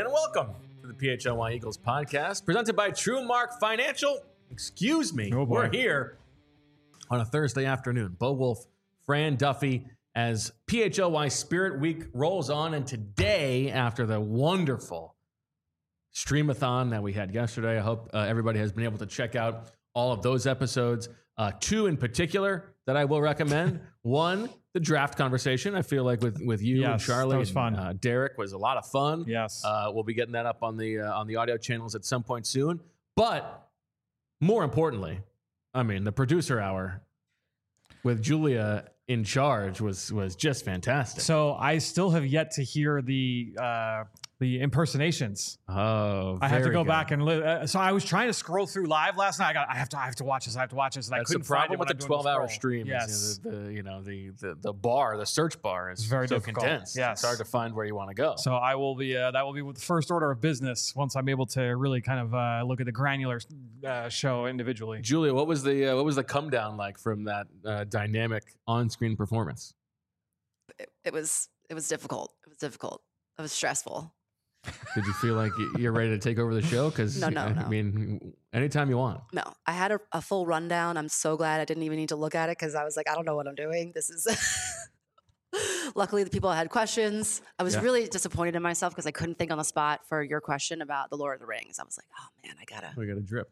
and welcome to the PHLY Eagles podcast, presented by TrueMark Financial. Excuse me, we're here on a Thursday afternoon. Bo Wolf, Fran Duffy, as PHLY Spirit Week rolls on, and today, after the wonderful streamathon that we had yesterday, I hope everybody has been able to check out all of those episodes. Two in particular that I will recommend. One, the draft conversation. I feel like with you and Charlie, that was fun. Derek was a lot of fun. Yes, we'll be getting that up on the audio channels at some point soon. But more importantly, I mean, the producer hour with Julia in charge was just fantastic. So I still have yet to hear the impersonations. Oh, I have to go back and so I was trying to scroll through live last night. I have to watch this. And That's I couldn't the problem find it with the 12-hour stream. Yes, The search bar is very so difficult. condensed. Yes. It's hard to find where you want to go. So I will be. That will be the first order of business once I'm able to really kind of look at the granular show individually. Julia, what was the come down like from that dynamic on-screen performance? It was difficult. It was stressful. Did you feel like you're ready to take over the show? Because No. I mean, anytime you want. No, I had a full rundown. I'm so glad I didn't even need to look at it because I was like, I don't know what I'm doing. This is. Luckily, the people had questions. I was really disappointed in myself because I couldn't think on the spot for your question about the Lord of the Rings. I was like, oh man, We got a drip.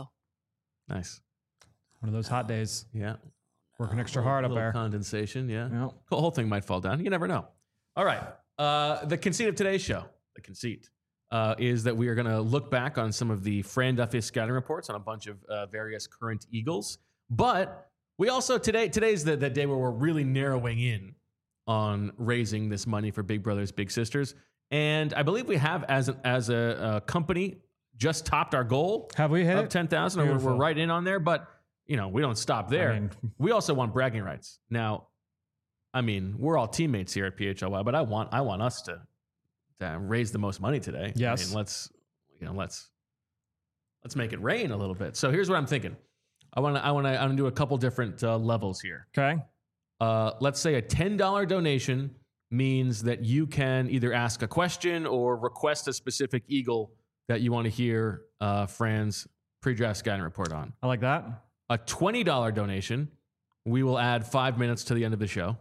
Nice. One of those hot days. Yeah. Working extra hard up there. Condensation. Yeah. Yep. The whole thing might fall down. You never know. All right. The conceit of today's show. The conceit is that we are going to look back on some of the Fran Duffy scouting reports on a bunch of various current Eagles. But we also today's the day where we're really narrowing in on raising this money for Big Brothers Big Sisters. And I believe we have as a company just topped our goal. Have we hit of it? 10,000? We're right in on there, but we don't stop there. I mean, we also want bragging rights. Now, I mean, we're all teammates here at PHLY, but I want us to raise the most money today. Yes. I mean, let's make it rain a little bit. So here's what I'm thinking. I'm gonna do a couple different levels here. Okay. Let's say a $10 donation means that you can either ask a question or request a specific Eagle that you want to hear Fran's pre-draft scouting report on. I like that. A $20 donation, we will add 5 minutes to the end of the show.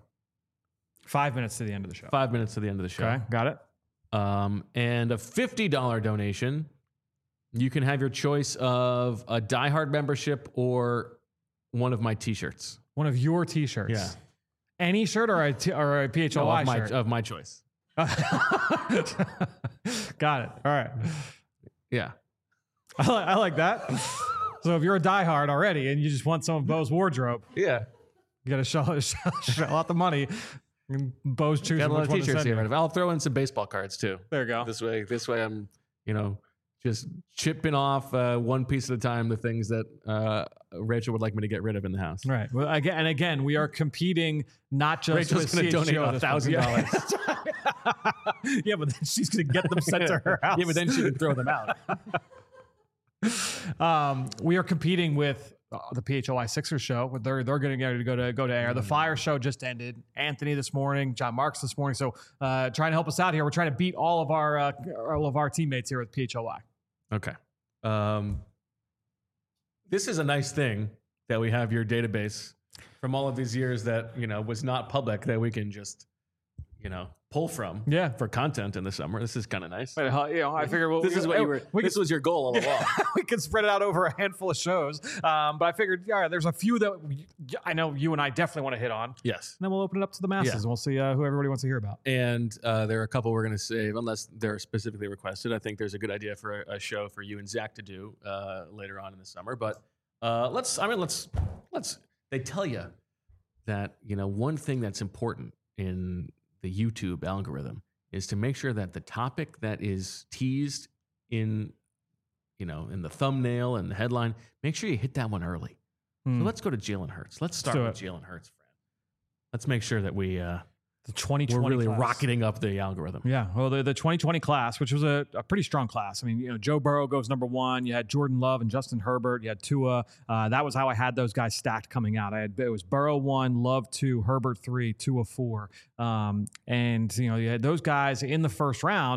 5 minutes to the end of the show. 5 minutes to the end of the show. Okay, got it. And a $50 donation, you can have your choice of a Die Hard membership or one of my T-shirts. One of your T-shirts. Yeah. Any shirt or a PHLY shirt? Of my choice. Got it. All right. Yeah. I like that. So if you're a diehard already and you just want some of Bo's wardrobe, Yeah. you got to shell out the money. And Bo's choosing Got a lot which of one to T-shirts send here. you. I'll throw in some baseball cards too. There you go. This way I'm, just chipping off one piece at a time the things that Rachel would like me to get rid of in the house. Right. Well, again, we are competing not just Rachel's with going to donate CHGO this month. $1,000. Yeah, but then she's going to get them sent to her house. Yeah, but then she can throw them out. We are competing with the PHLY Sixers show. They're going to go to air. The Fire show just ended. Anthony this morning, John Marks this morning. So trying to help us out here. We're trying to beat all of our teammates here at PHLY. Okay. This is a nice thing that we have your database from all of these years that, was not public that we can just, pull from for content in the summer. This is kind of nice. But, I figure this was your goal all along. We can spread it out over a handful of shows. But I figured, there's a few that I know you and I definitely want to hit on. Yes. And then we'll open it up to the masses and we'll see who everybody wants to hear about. And there are a couple we're going to save unless they're specifically requested. I think there's a good idea for a show for you and Zach to do later on in the summer. But they tell you that, one thing that's important in the YouTube algorithm is to make sure that the topic that is teased in the thumbnail and the headline, make sure you hit that one early. So let's go to Jalen Hurts. Let's start with Jalen Hurts, Fran. Let's make sure that the 2020 we're really class. rocketing up the algorithm. Yeah, well, the 2020 class, which was a pretty strong class. I mean, Joe Burrow goes number one. You had Jordan Love and Justin Herbert. You had Tua. That was how I had those guys stacked coming out. It was Burrow 1, Love 2, Herbert 3, Tua 4. And you had those guys in the first round.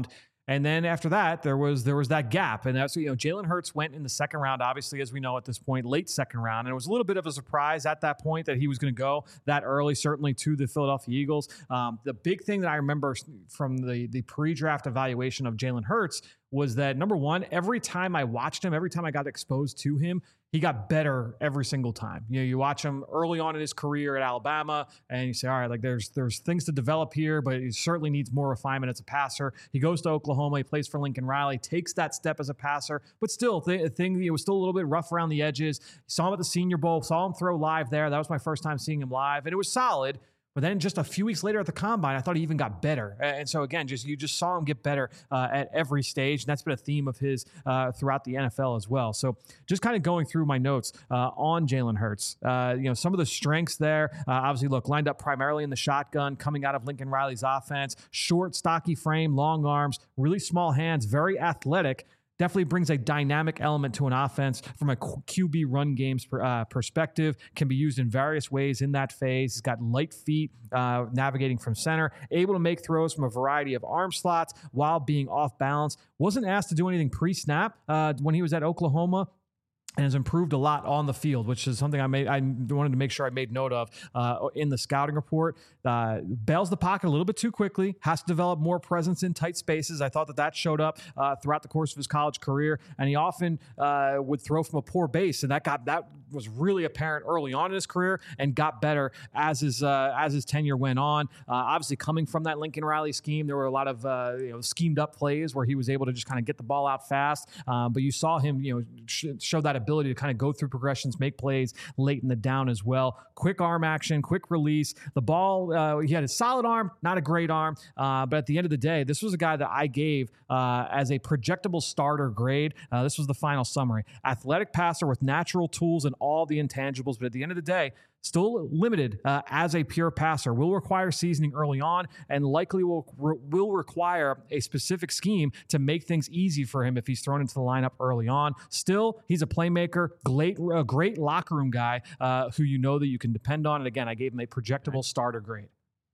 And then after that, there was that gap. And that's, Jalen Hurts went in the second round, obviously, as we know at this point, late second round. And it was a little bit of a surprise at that point that he was going to go that early, certainly to the Philadelphia Eagles. The big thing that I remember from the pre-draft evaluation of Jalen Hurts was that, number one, every time I watched him, every time I got exposed to him, he got better every single time. You watch him early on in his career at Alabama, and you say, all right, like there's things to develop here, but he certainly needs more refinement as a passer. He goes to Oklahoma, he plays for Lincoln Riley, takes that step as a passer, but still, it was still a little bit rough around the edges. Saw him at the Senior Bowl, saw him throw live there. That was my first time seeing him live, and it was solid. But then just a few weeks later at the Combine, I thought he even got better. And so again, you just saw him get better at every stage. And that's been a theme of his throughout the NFL as well. So just kind of going through my notes on Jalen Hurts, some of the strengths there, obviously, look, lined up primarily in the shotgun, coming out of Lincoln Riley's offense, short, stocky frame, long arms, really small hands, very athletic. Definitely brings a dynamic element to an offense from a QB run game's perspective. Can be used in various ways in that phase. He's got light feet, navigating from center, able to make throws from a variety of arm slots while being off balance. Wasn't asked to do anything pre-snap when he was at Oklahoma, and has improved a lot on the field, which is something I wanted to make sure I made note of in the scouting report. Bails the pocket a little bit too quickly, has to develop more presence in tight spaces. I thought that showed up throughout the course of his college career, and he often would throw from a poor base, and that was really apparent early on in his career and got better as his tenure went on. Obviously, coming from that Lincoln Riley scheme, there were a lot of schemed up plays where he was able to just kind of get the ball out fast, but you saw him show that ability to kind of go through progressions, make plays late in the down as well. Quick arm action, quick release. The ball, he had a solid arm, not a great arm, but at the end of the day, this was a guy that I gave as a projectable starter grade. This was the final summary. Athletic passer with natural tools and all the intangibles, but at the end of the day, still limited as a pure passer. Will require seasoning early on, and likely will require a specific scheme to make things easy for him if he's thrown into the lineup early on. Still, he's a playmaker, a great locker room guy who that you can depend on. And again, I gave him a projectable starter grade.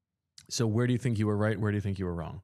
So where do you think you were right? Where do you think you were wrong?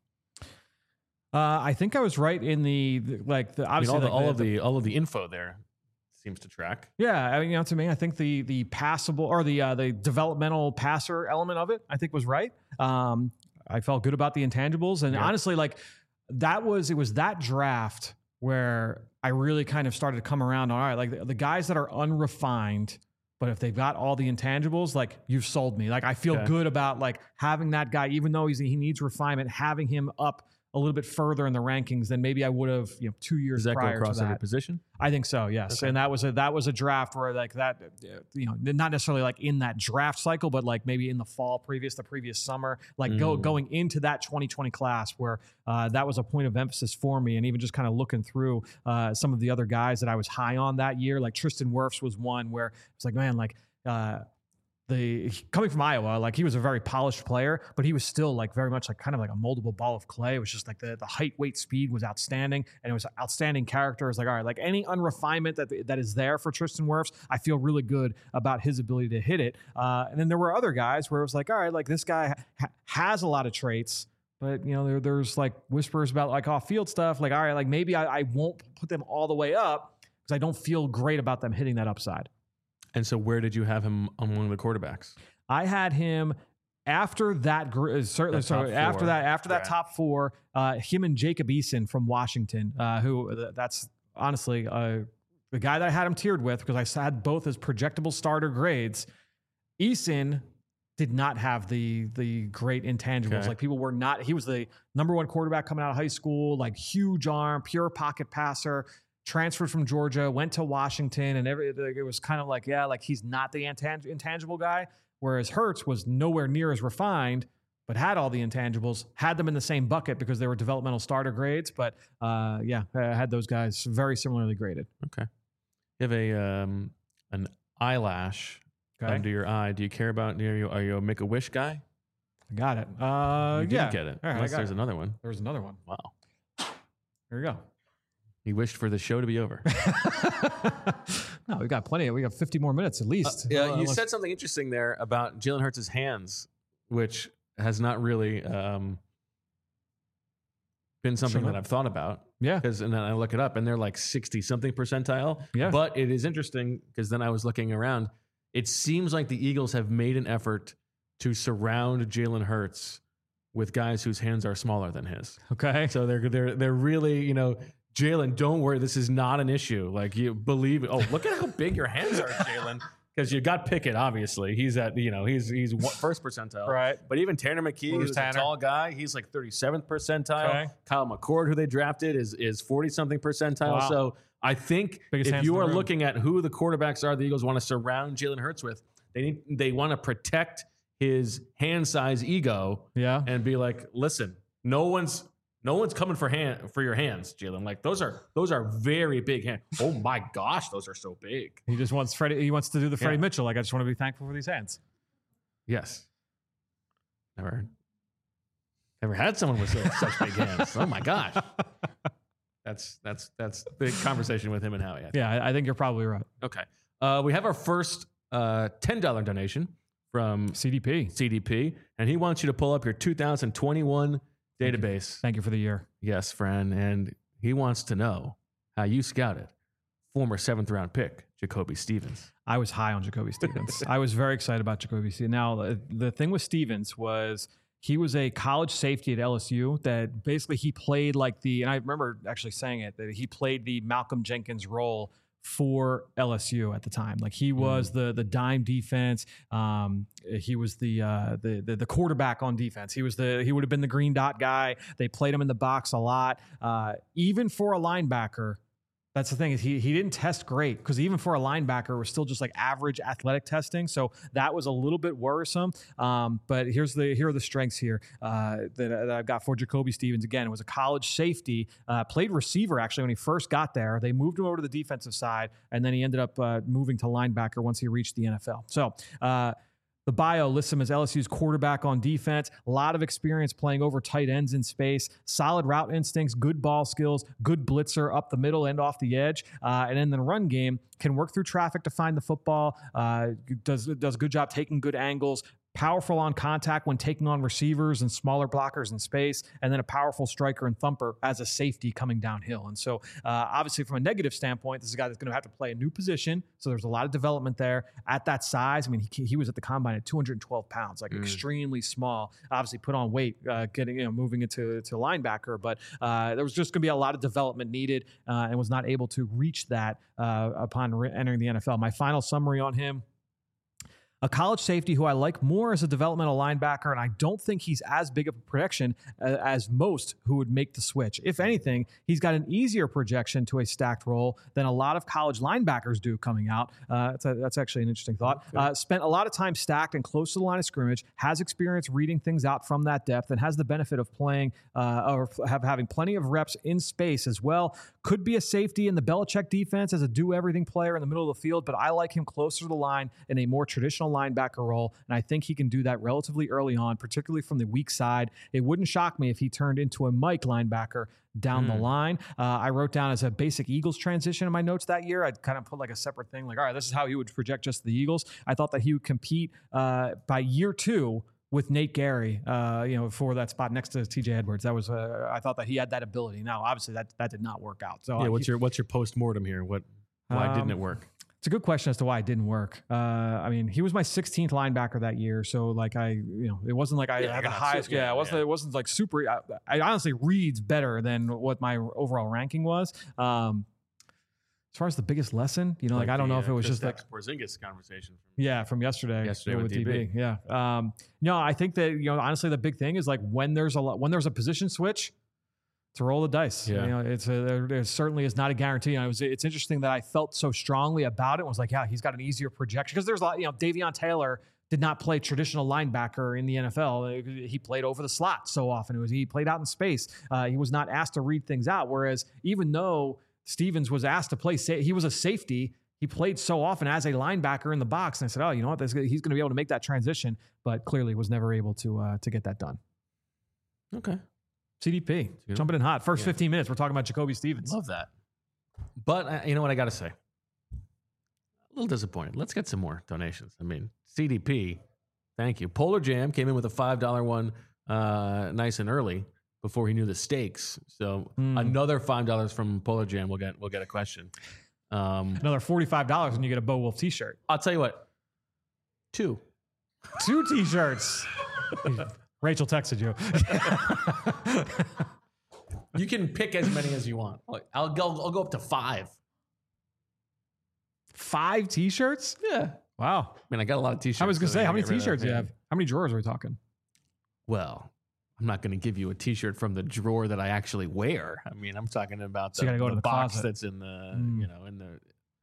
I think I was right in obviously all of the info there seems to track. Yeah, to me, I think the passable or the developmental passer element of it, I think was right. I felt good about the intangibles, and honestly, it was that draft where I really kind of started to come around on, all right, like the guys that are unrefined, but if they've got all the intangibles, like you've sold me. Like I feel good about having that guy, even though he needs refinement, having him up a little bit further in the rankings than maybe I would have 2 years prior to that. Does that go across every position? I think so, yes. Okay. And that was a draft where not necessarily in that draft cycle, but maybe in the fall the previous summer, going into that 2020 class where that was a point of emphasis for me. And even just kind of looking through some of the other guys that I was high on that year, like Tristan Wirfs was one where it's coming from Iowa, he was a very polished player, but he was still very much kind of a moldable ball of clay. It was just the height, weight, speed was outstanding, and it was outstanding character. It's all right, any unrefinement that is there for Tristan Wirfs, I feel really good about his ability to hit it. And then there were other guys where it was all right, this guy has a lot of traits, but there's whispers about off-field stuff. All right, maybe I won't put them all the way up because I don't feel great about them hitting that upside. And so where did you have him among the quarterbacks? I had him after that, certainly. So after that top four, him and Jacob Eason from Washington, that's honestly the guy that I had him tiered with because I had both as projectable starter grades. Eason did not have the great intangibles. Okay. People were not. He was the number one quarterback coming out of high school. Huge arm, pure pocket passer. Transferred from Georgia, went to Washington, and it was kind of he's not the intangible guy, whereas Hurts was nowhere near as refined, but had all the intangibles, had them in the same bucket because they were developmental starter grades, but I had those guys very similarly graded. Okay. You have an eyelash under your eye. Do you care about, are you a Make-A-Wish guy? I got it. You didn't get it. Right, unless there's another one. There's another one. Wow. Here we go. He wished for the show to be over. No, we got plenty. We got 50 more minutes at least. You said something interesting there about Jalen Hurts' hands, which has not really been something that I've thought about. Yeah. And then I look it up and they're like 60 something percentile. Yeah. But it is interesting because then I was looking around. It seems like the Eagles have made an effort to surround Jalen Hurts with guys whose hands are smaller than his. Okay. So they're really, Jalen, don't worry. This is not an issue. Like, you believe it. Oh, look at how big your hands are, Jalen. Because you got Pickett, obviously. He's at, he's first percentile. Right. But even Tanner McKee, who's a tall guy, he's like 37th percentile. Okay. Kyle McCord, who they drafted, is 40-something percentile. Wow. So I think if you are looking at who the quarterbacks are the Eagles want to surround Jalen Hurts with, they want to protect his hand size ego. Yeah. And be like, listen, no one's coming for your hands, Jalen. Like those are very big hands. Oh my gosh, those are so big. He just wants Freddie. He wants to do the Freddie Mitchell. Like, I just want to be thankful for these hands. Yes. Never had someone with such big hands. Oh my gosh. That's the conversation with him and Howie. I think you're probably right. Okay. We have our first $10 donation from CDP, and he wants you to pull up your 2021 database. Thank you for the year. Yes, friend. And he wants to know how you scouted former 7th round pick Jacoby Stevens. I was high on Jacoby Stevens. I was very excited about Jacoby Stevens. Now, the thing with Stevens was he was a college safety at LSU that basically he played and I remember actually saying it, that he played the Malcolm Jenkins role for LSU at the time. Like, he was the dime defense. He was the quarterback on defense. He would have been the green dot guy. They played him in the box a lot. Even for a linebacker, that's the thing, is he didn't test great, because even for a linebacker, it was still just like average athletic testing. So that was a little bit worrisome. But here are the strengths here that I've got for Jacoby Stevens. Again, it was a college safety, played receiver actually when he first got there. They moved him over to the defensive side, and then he ended up moving to linebacker once he reached the NFL. So the bio lists him as LSU's quarterback on defense, a lot of experience playing over tight ends in space, solid route instincts, good ball skills, good blitzer up the middle and off the edge. And in the run game, can work through traffic to find the football, does a good job taking good angles, powerful on contact when taking on receivers and smaller blockers in space, and then a powerful striker and thumper as a safety coming downhill. And so obviously from a negative standpoint, this is a guy that's going to have to play a new position. So there's a lot of development there at that size. I mean, he was at the combine at 212 pounds, like extremely small, obviously put on weight, moving into linebacker, but there was just going to be a lot of development needed and was not able to reach that upon entering the NFL. My final summary on him: a college safety who I like more as a developmental linebacker, and I don't think he's as big of a projection as most who would make the switch. If anything, he's got an easier projection to a stacked role than a lot of college linebackers do coming out. That's actually an interesting thought. Spent a lot of time stacked and close to the line of scrimmage, has experience reading things out from that depth, and has the benefit of playing or having plenty of reps in space as well. Could be a safety in the Belichick defense as a do-everything player in the middle of the field, but I like him closer to the line in a more traditional linebacker role, and I think he can do that relatively early on, particularly from the weak side. It wouldn't shock me if he turned into a Mike linebacker down the line. I wrote down as a basic Eagles transition in my notes that year. I'd kind of put like a separate thing, like, all right, this is how he would project just the Eagles. I thought that he would compete by year 2 with Nate Gary, for that spot next to TJ Edwards. That was I thought that he had that ability. Now, obviously, that did not work out. So what's your post-mortem here? Why didn't it work? It's a good question as to why it didn't work. I mean, he was my 16th linebacker that year, so like it wasn't like I had the highest. It wasn't like super. I honestly reads better than what my overall ranking was. As far as the biggest lesson, I don't know if it was just like Porzingis conversation. From yesterday with DB. Yeah. No, I think that honestly the big thing is like when there's a position switch, to roll the dice. Yeah. There certainly is not a guarantee. And it's interesting that I felt so strongly about it. It was like, yeah, he's got an easier projection, because there's a lot. Davion Taylor did not play traditional linebacker in the NFL. He played over the slot so often. He played out in space. He was not asked to read things out. Whereas even though Stevens was asked to play, he was a safety, he played so often as a linebacker in the box. And I said, oh, you know what? He's going to be able to make that transition, but clearly was never able to get that done. Okay. CDP, jumping in hot. First 15 minutes, we're talking about Jacoby Stevens. Love that. But you know what I got to say? A little disappointed. Let's get some more donations. I mean, CDP, thank you. Polar Jam came in with a $5 one nice and early. before he knew the stakes. So another $5 from Polar Jam. We'll get a question. Another $45 when you get a Bo Wolf t-shirt. I'll tell you what. 2 t-shirts. Rachel texted you. You can pick as many as you want. I'll go up to 5. 5 t-shirts? Yeah. Wow. I mean, I got a lot of t-shirts. I was going to say, how many t-shirts do you have? How many drawers are we talking? Well, I'm not going to give you a t-shirt from the drawer that I actually wear. I mean, I'm talking about so you gotta go to the box closet. that's in the, in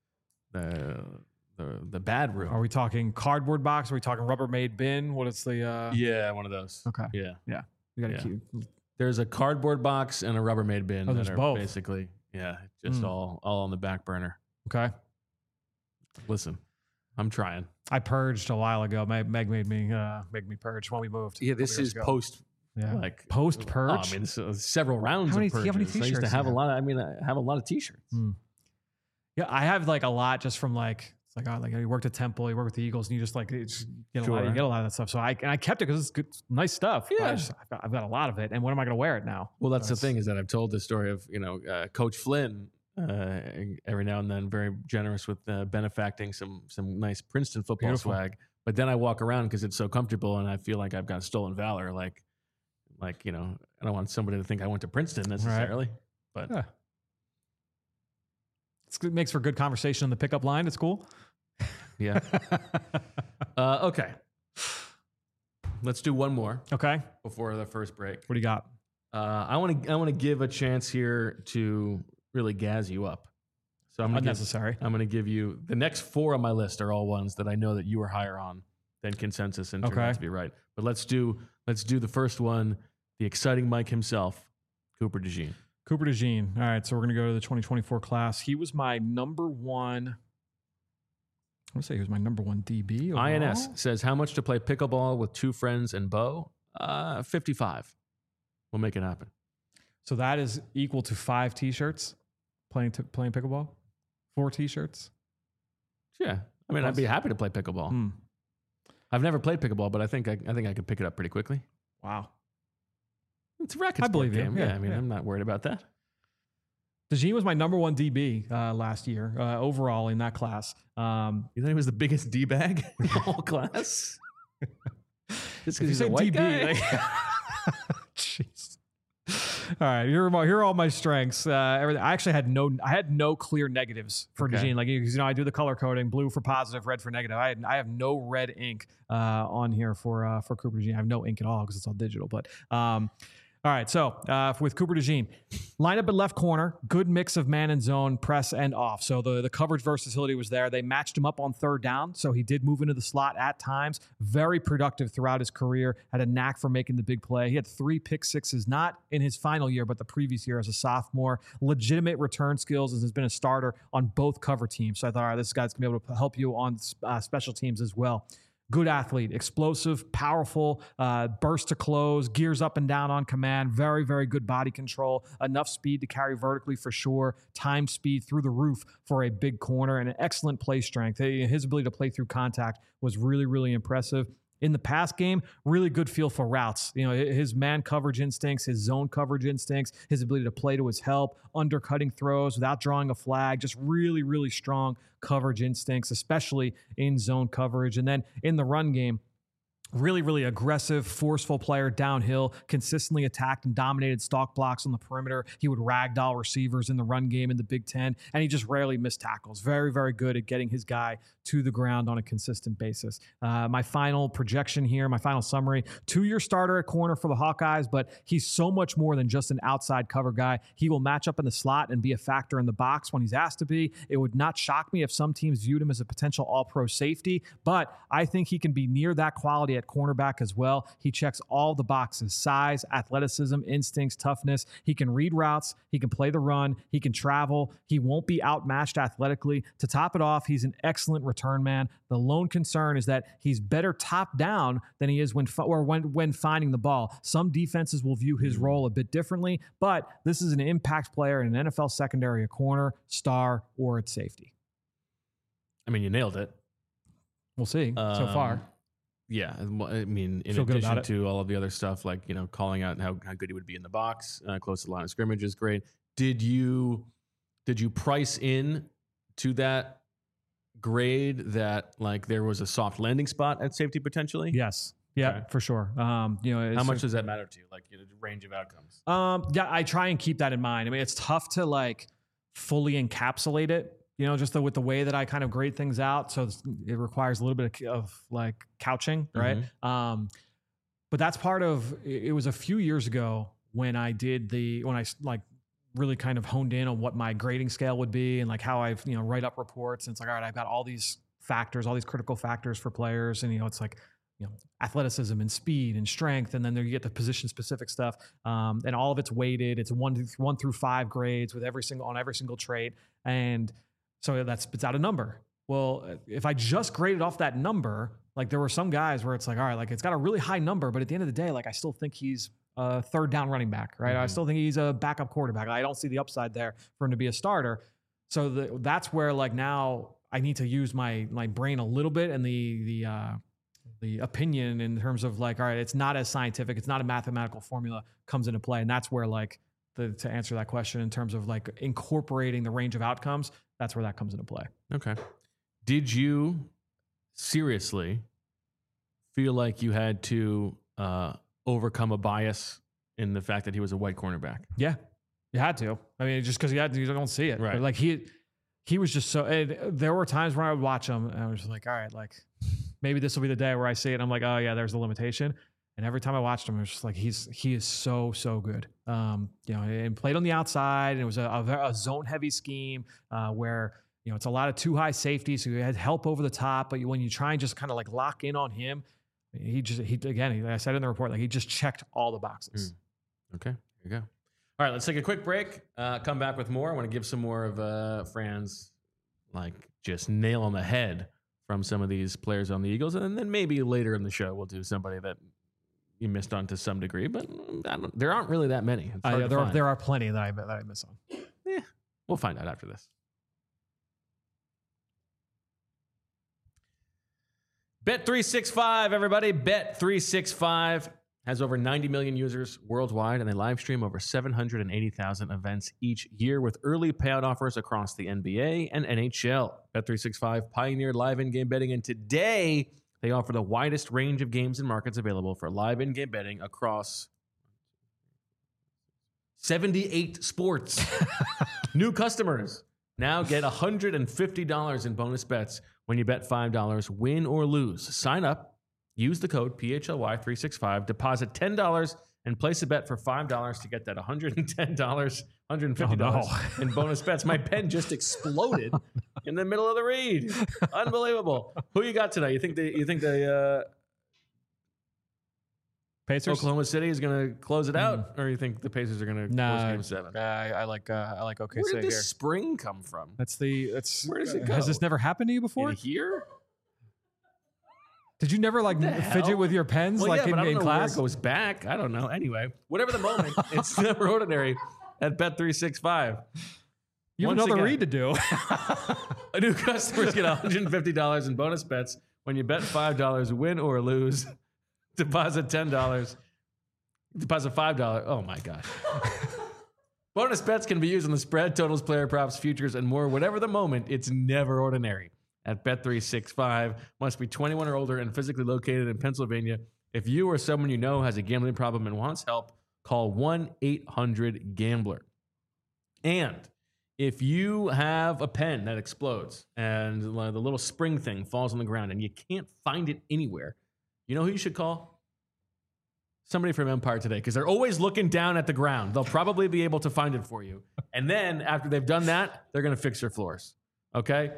the bad room. Are we talking cardboard box? Are we talking Rubbermaid bin? What is the... Yeah, one of those. Okay. Yeah. Yeah. You got to keep... There's a cardboard box and a Rubbermaid bin. Oh, there's both. Basically, just all on the back burner. Okay. Listen, I'm trying. I purged a while ago. Meg made me purge when we moved. Yeah, this is post. Yeah, like post purge. I mean, several rounds of purges. How many t-shirts I used to have a lot. I have a lot of t-shirts. Yeah, I have like a lot just from like it's like like you worked at Temple, you work with the Eagles, and you just like you get a lot of that stuff. So I kept it because it's good, nice stuff. Yeah, I've got a lot of it, and when am I going to wear it now? Well, that's the thing is that I've told the story of Coach Flynn. Every now and then, very generous with benefacting some nice Princeton football swag. But then I walk around because it's so comfortable, and I feel like I've got stolen valor. Like I don't want somebody to think I went to Princeton necessarily. Right. But it makes for good conversation on the pickup line. It's cool. Yeah. Okay. Let's do one more. Okay. Before the first break. What do you got? I want to give a chance here to really gas you up. So I'm unnecessary. I'm going to give you the next 4 on my list are all ones that I know that you are higher on than consensus and turned out to be right. But let's do the first one. The exciting Mike himself, Cooper DeJean. Cooper DeJean. All right, so we're going to go to the 2024 class. He was my number one. I'm going to say he was my number 1 DB. Overall. INS says how much to play pickleball with 2 friends and Bo? 55. We'll make it happen. So that is equal to 5 t-shirts playing pickleball. 4 t-shirts. Yeah, I mean, I'd be happy to play pickleball. I've never played pickleball, but I think I could pick it up pretty quickly. Wow, it's a racket sport game. Yeah, I mean, I'm not worried about that. DeJean was my number 1 DB last year overall in that class. You thought he was the biggest D-bag in the whole class? Just because he's a white DB, guy? Jeez. All right, here are all my strengths. Everything. I actually had no clear negatives for DeJean. Like I do the color coding: blue for positive, red for negative. I have no red ink on here for Cooper DeJean. I have no ink at all because it's all digital. But all right, so with Cooper DeJean, line up at left corner, good mix of man and zone, press and off. So the coverage versatility was there. They matched him up on 3rd down, so he did move into the slot at times. Very productive throughout his career, had a knack for making the big play. He had 3 pick sixes, not in his final year, but the previous year as a sophomore. Legitimate return skills and has been a starter on both cover teams. So I thought, all right, this guy's going to be able to help you on special teams as well. Good athlete, explosive, powerful, burst to close, gears up and down on command, very, very good body control, enough speed to carry vertically for sure, time speed through the roof for a big corner, and an excellent play strength. His ability to play through contact was really, really impressive. In the pass game, really good feel for routes. His man coverage instincts, his zone coverage instincts, his ability to play to his help, undercutting throws without drawing a flag, just really, really strong coverage instincts, especially in zone coverage. And then in the run game, really, really aggressive, forceful player downhill, consistently attacked and dominated stalk blocks on the perimeter. He would ragdoll receivers in the run game in the Big Ten, and he just rarely missed tackles. Very, very good at getting his guy to the ground on a consistent basis. My final projection here, my final summary, 2-year starter at corner for the Hawkeyes, but he's so much more than just an outside cover guy. He will match up in the slot and be a factor in the box when he's asked to be. It would not shock me if some teams viewed him as a potential all-pro safety, but I think he can be near that quality at cornerback as well. He checks all the boxes: size, athleticism, instincts, toughness. He can read routes. He can play the run. He can travel. He won't be outmatched athletically. To top it off, he's an excellent return man. The lone concern is that he's better top down than he is when finding the ball. Some defenses will view his role a bit differently, but this is an impact player in an NFL secondary, a corner, star, or at safety. I mean, you nailed it. We'll see so far. Yeah, I mean, in Feel good about addition it. to all of the other stuff, like, you know, calling out how good he would be in the box, close to the line of scrimmage is great. Did you price in to that grade that like there was a soft landing spot at safety potentially? Yes. Yeah, Okay. for sure. You know, How much does that matter to you? Like, you know, the range of outcomes. Yeah, I try and keep that in mind. I mean, it's tough to like fully encapsulate it, you know, just with the way that I kind of grade things out. So it requires a little bit of like couching, right? But that's part of, it was a few years ago when I like really kind of honed in on what my grading scale would be and like how I've, you know, write up reports. And it's like, all right, I've got all these factors, all these critical factors for players. And, you know, it's like, you know, athleticism and speed and strength. And then there you get the position specific stuff. And all of it's weighted. It's 1 through 5 grades with every single trait. And so that spits out a number. Well, if I just graded off that number, like there were some guys where it's like, all right, like it's got a really high number, but at the end of the day, like I still think he's a third down running back, right? I still think he's a backup quarterback. I don't see the upside there for him to be a starter. So that's where like now I need to use my brain a little bit and the opinion in terms of like, all right, it's not as scientific, it's not a mathematical formula comes into play. And that's where like to answer that question in terms of like incorporating the range of outcomes, that's where that comes into play. Okay. Did you seriously feel like you had to overcome a bias in the fact that he was a white cornerback? Yeah, you had to. I mean, just because you don't see it. Right. But like he was just so, there were times when I would watch him and I was just like, all right, like maybe this will be the day where I see it. And I'm like, oh yeah, there's the limitation. And every time I watched him, it was just like, he is so good. You know, and played on the outside and it was a zone heavy scheme where, you know, it's a lot of too high safety. So you had help over the top, but when you try and just kind of like lock in on him, I said in the report, like he just checked all the boxes. Okay, here you go. All right, let's take a quick break. Come back with more. I want to give some more of Fran's like just nail on the head from some of these players on the Eagles, and then maybe later in the show we'll do somebody that you missed on to some degree, but there aren't really that many. There are plenty that I miss on. Yeah, we'll find out after this. Bet365, everybody. Bet365 has over 90 million users worldwide, and they live stream over 780,000 events each year with early payout offers across the NBA and NHL. Bet365 pioneered live in-game betting, and today they offer the widest range of games and markets available for live in-game betting across 78 sports. New customers now get $150 in bonus bets when you bet $5, win or lose. Sign up, use the code PHLY365, deposit $10, and place a bet for $5 to get that $110, $150 in bonus bets. My pen just exploded in the middle of the read. Unbelievable. Who you got today? You think the Pacers? Oklahoma City is going to close it out, or you think the Pacers are going to close Game 7? I like OKC Where did this here. spring come from? Where does it go? Has this never happened to you before? In here? Did you never like fidget with your pens Well, like yeah, but I don't in know class? where it goes back. I don't know. Anyway, whatever the moment, it's never ordinary at Bet365. You have Once another again, read to do. New customers get $150 in bonus bets when you bet $5, win or lose. Deposit $10. Deposit $5. Oh my gosh. Bonus bets can be used on the spread, totals, player props, futures, and more. Whatever the moment, it's never ordinary. At Bet365, must be 21 or older and physically located in Pennsylvania. If you or someone you know has a gambling problem and wants help, call 1-800-GAMBLER. And if you have a pen that explodes and the little spring thing falls on the ground and you can't find it anywhere, you know who you should call? Somebody from Empire Today, because they're always looking down at the ground. They'll probably be able to find it for you. And then after they've done that, they're going to fix your floors. Okay?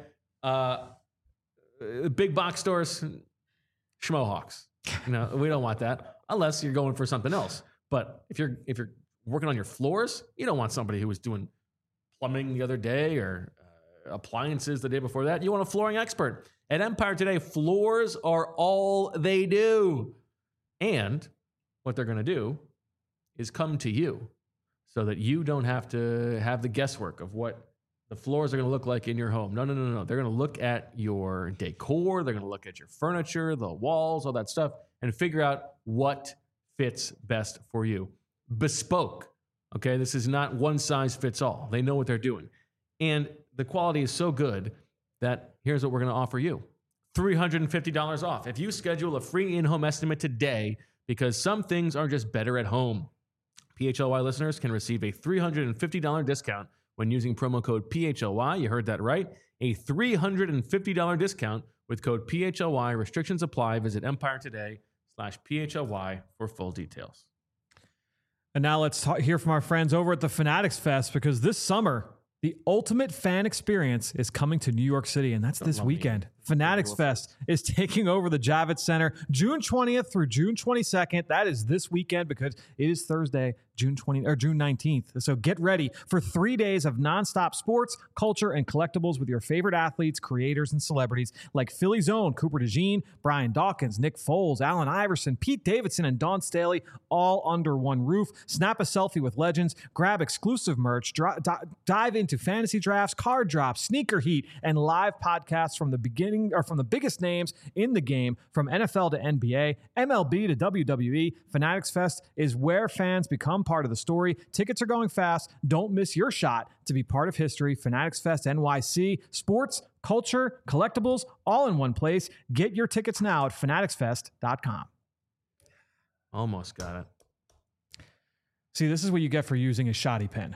Big box stores, schmohawks. You know, we don't want that unless you're going for something else. But if you're working on your floors, you don't want somebody who was doing plumbing the other day or appliances the day before that. You want a flooring expert. At Empire Today, floors are all they do. And what they're going to do is come to you so that you don't have to have the guesswork of what the floors are going to look like in your home. No. They're going to look at your decor. They're going to look at your furniture, the walls, all that stuff, and figure out what fits best for you. Bespoke. Okay, this is not one size fits all. They know what they're doing. And the quality is so good that here's what we're going to offer you. $350 off. If you schedule a free in-home estimate today, because some things are just better at home. PHLY listeners can receive a $350 discount when using promo code PHLY. You heard that right. A $350 discount with code PHLY. Restrictions apply. Visit EmpireToday.com/PHLY for full details. And now let's hear from our friends over at the Fanatics Fest, because this summer, the ultimate fan experience is coming to New York City, and that's this weekend. Fanatics Fest is taking over the Javits Center June 20th through June 22nd. That is this weekend, because it is Thursday, June 19th. So get ready for 3 days of nonstop sports, culture, and collectibles with your favorite athletes, creators, and celebrities like Philly's own Cooper DeJean, Brian Dawkins, Nick Foles, Allen Iverson, Pete Davidson, and Dawn Staley, all under one roof. Snap a selfie with legends, grab exclusive merch, dive into fantasy drafts, card drops, sneaker heat, and live podcasts from the beginning, or from the biggest names in the game, from NFL to NBA, MLB to WWE. Fanatics Fest is where fans become part of the story. Tickets are going fast. Don't miss your shot to be part of history. Fanatics Fest NYC. Sports, culture, collectibles, all in one place. Get your tickets now at fanaticsfest.com. Almost got it. See, this is what you get for using a shoddy pen.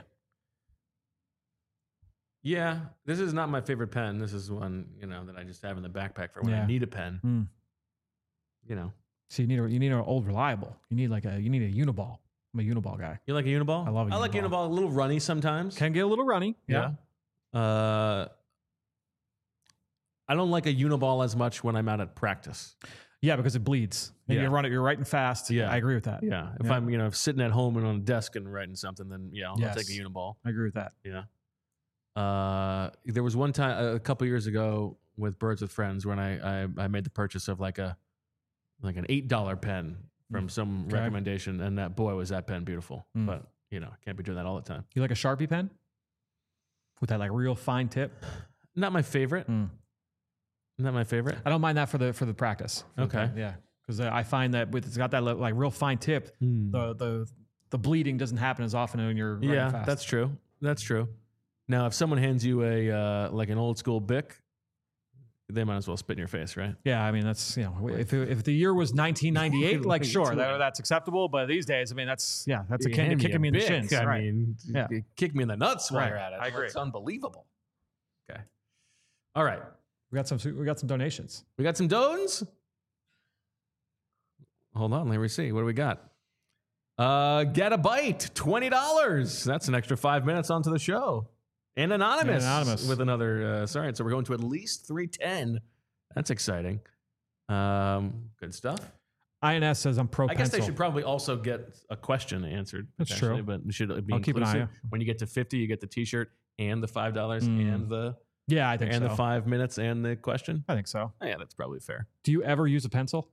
Yeah, this is not my favorite pen. This is one, that I just have in the backpack for when I need a pen. So you need an old reliable. You need a Uniball. I'm a Uniball guy. You like a Uniball? I love a Uniball. I like Uniball. A little runny sometimes. Can get a little runny. Yeah. I don't like a Uniball as much when I'm out at practice. Yeah, because it bleeds. And you run it, you're writing fast. Yeah. I agree with that. Yeah. If I'm, sitting at home and on a desk and writing something, then I'll take a Uniball. I agree with that. Yeah. There was one time a couple years ago with Birds with Friends when I made the purchase of like an $8 pen from some recommendation, and that was that pen beautiful. But can't be doing that all the time. You like a Sharpie pen with that like real fine tip? Not my favorite. Not my favorite. I don't mind that for the practice. Okay. Yeah, because I find that it's got that like real fine tip, the bleeding doesn't happen as often when you're running fast. That's true. That's true. Now, if someone hands you a like an old school Bic, they might as well spit in your face, right? Yeah, I mean that's if the year was 1998, like sure that's acceptable, but these days, I mean that's akin to kicking me in the shins. I mean, kick me in the nuts while you're at it. I agree. It's unbelievable. Okay, all right. We got some donations. We got some dones. Hold on, let me see. What do we got? Get a bite, $20. That's an extra 5 minutes onto the show. And anonymous with another. So we're going to at least 310. That's exciting. Good stuff. INS says I'm pro pencil. I guess they should probably also get a question answered. That's true. But it should be I'll keep an eye out. When you get to 50, you get the T-shirt and the $5 and the I think the 5 minutes and the question. I think so. Oh, yeah, that's probably fair. Do you ever use a pencil?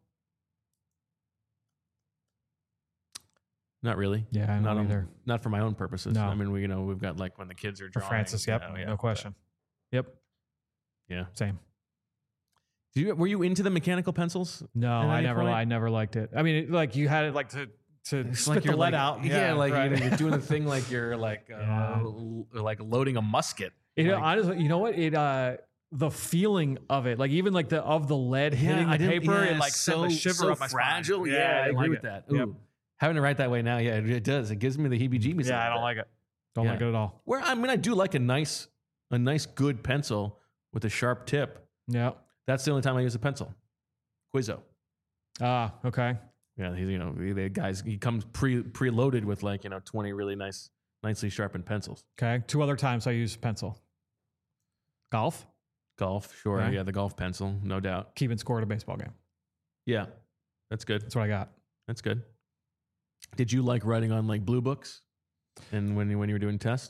Not really. Yeah, I don't either. Not for my own purposes. No. I mean, we've got like when the kids are drawing. For Francis, yep, no question. Yep. Yeah. Same. Were you into the mechanical pencils? No, I never liked it. I mean, like you had it like to spit like the lead out. Yeah, like right. You're doing the thing like you're like like loading a musket. Honestly, you know what? The feeling of it, like even like the lead hitting the paper, it like sent a shiver up my fragile. spine. Yeah, I agree with that. Ooh. Yep. Having it right that way now, it does. It gives me the heebie-jeebies. Yeah, I don't like it. Don't like it at all. Where I do like a nice good pencil with a sharp tip. Yeah, that's the only time I use a pencil. Quizzo. Okay. Yeah, the guys. He comes preloaded with 20 really nicely sharpened pencils. Okay. 2 other times I use pencil. Golf, sure. Okay. Yeah, the golf pencil, no doubt. Keeping score at a baseball game. Yeah, that's good. That's what I got. That's good. Did you like writing on like blue books, and when you were doing tests?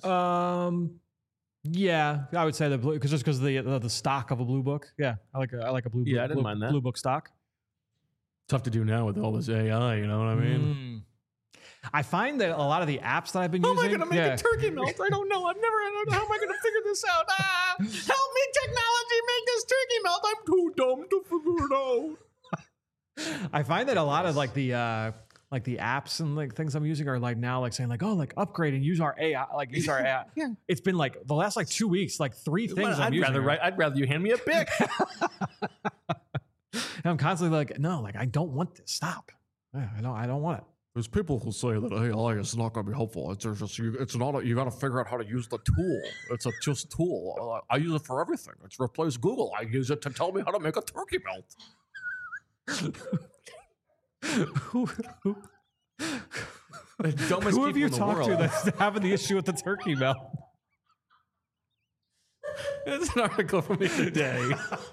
Yeah, I would say the blue because the stock of a blue book. Yeah, I like a blue. Yeah, I didn't mind that. Blue book stock. Tough to do now with all this AI. You know what I mean? I find that a lot of the apps that I've been using. How am I going to make a turkey melt? I don't know. How am I going to figure this out? Help me, technology, make this turkey melt. I'm too dumb to figure it out. I find that a lot of like the apps and like things I'm using are like now like saying like, oh, like upgrade and use our AI, like use our AI. Yeah. It's been like the last like 2 weeks, like 3 things I'm using. I'd rather you hand me a Bic. And I'm constantly like, no, like I don't want this. Stop. Yeah, I don't want it. There's people who say that AI is not going to be helpful. It's not. You got to figure out how to use the tool. It's a just tool. I use it for everything. It's replaced Google. I use it to tell me how to make a turkey melt. The dumbest Who have you people in the talked to world. that's having the issue with the turkey melt? It's an article from the other day.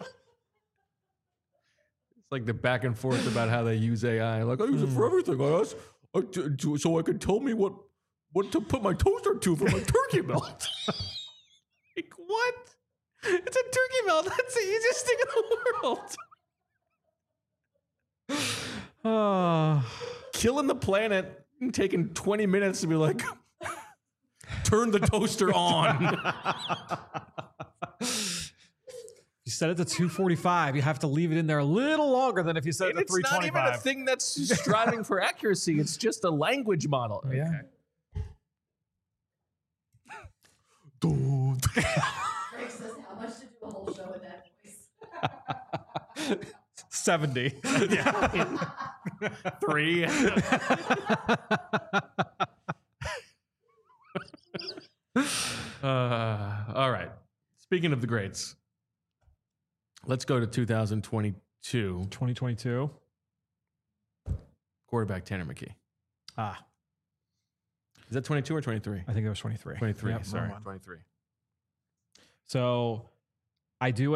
It's like the back and forth about how they use AI. Like, I use it for everything. So I can tell me what to put my toaster to for my turkey melt. Like, what? It's a turkey melt. That's the easiest thing in the world. Killing the planet and taking 20 minutes to be like, turn the toaster on. You set it to 245. You have to leave it in there a little longer than if you set it to It's not 325. even a thing that's striving for accuracy. It's just a language model. Yeah. Okay. Greg says, how much to do a whole show with that voice? 70. 3. All right. Speaking of the greats, let's go to 2022. 2022. Quarterback Tanner McKee. Is that 22 or 23? I think it was 23. 23. Yep, Sorry, wrong one. 23. So I do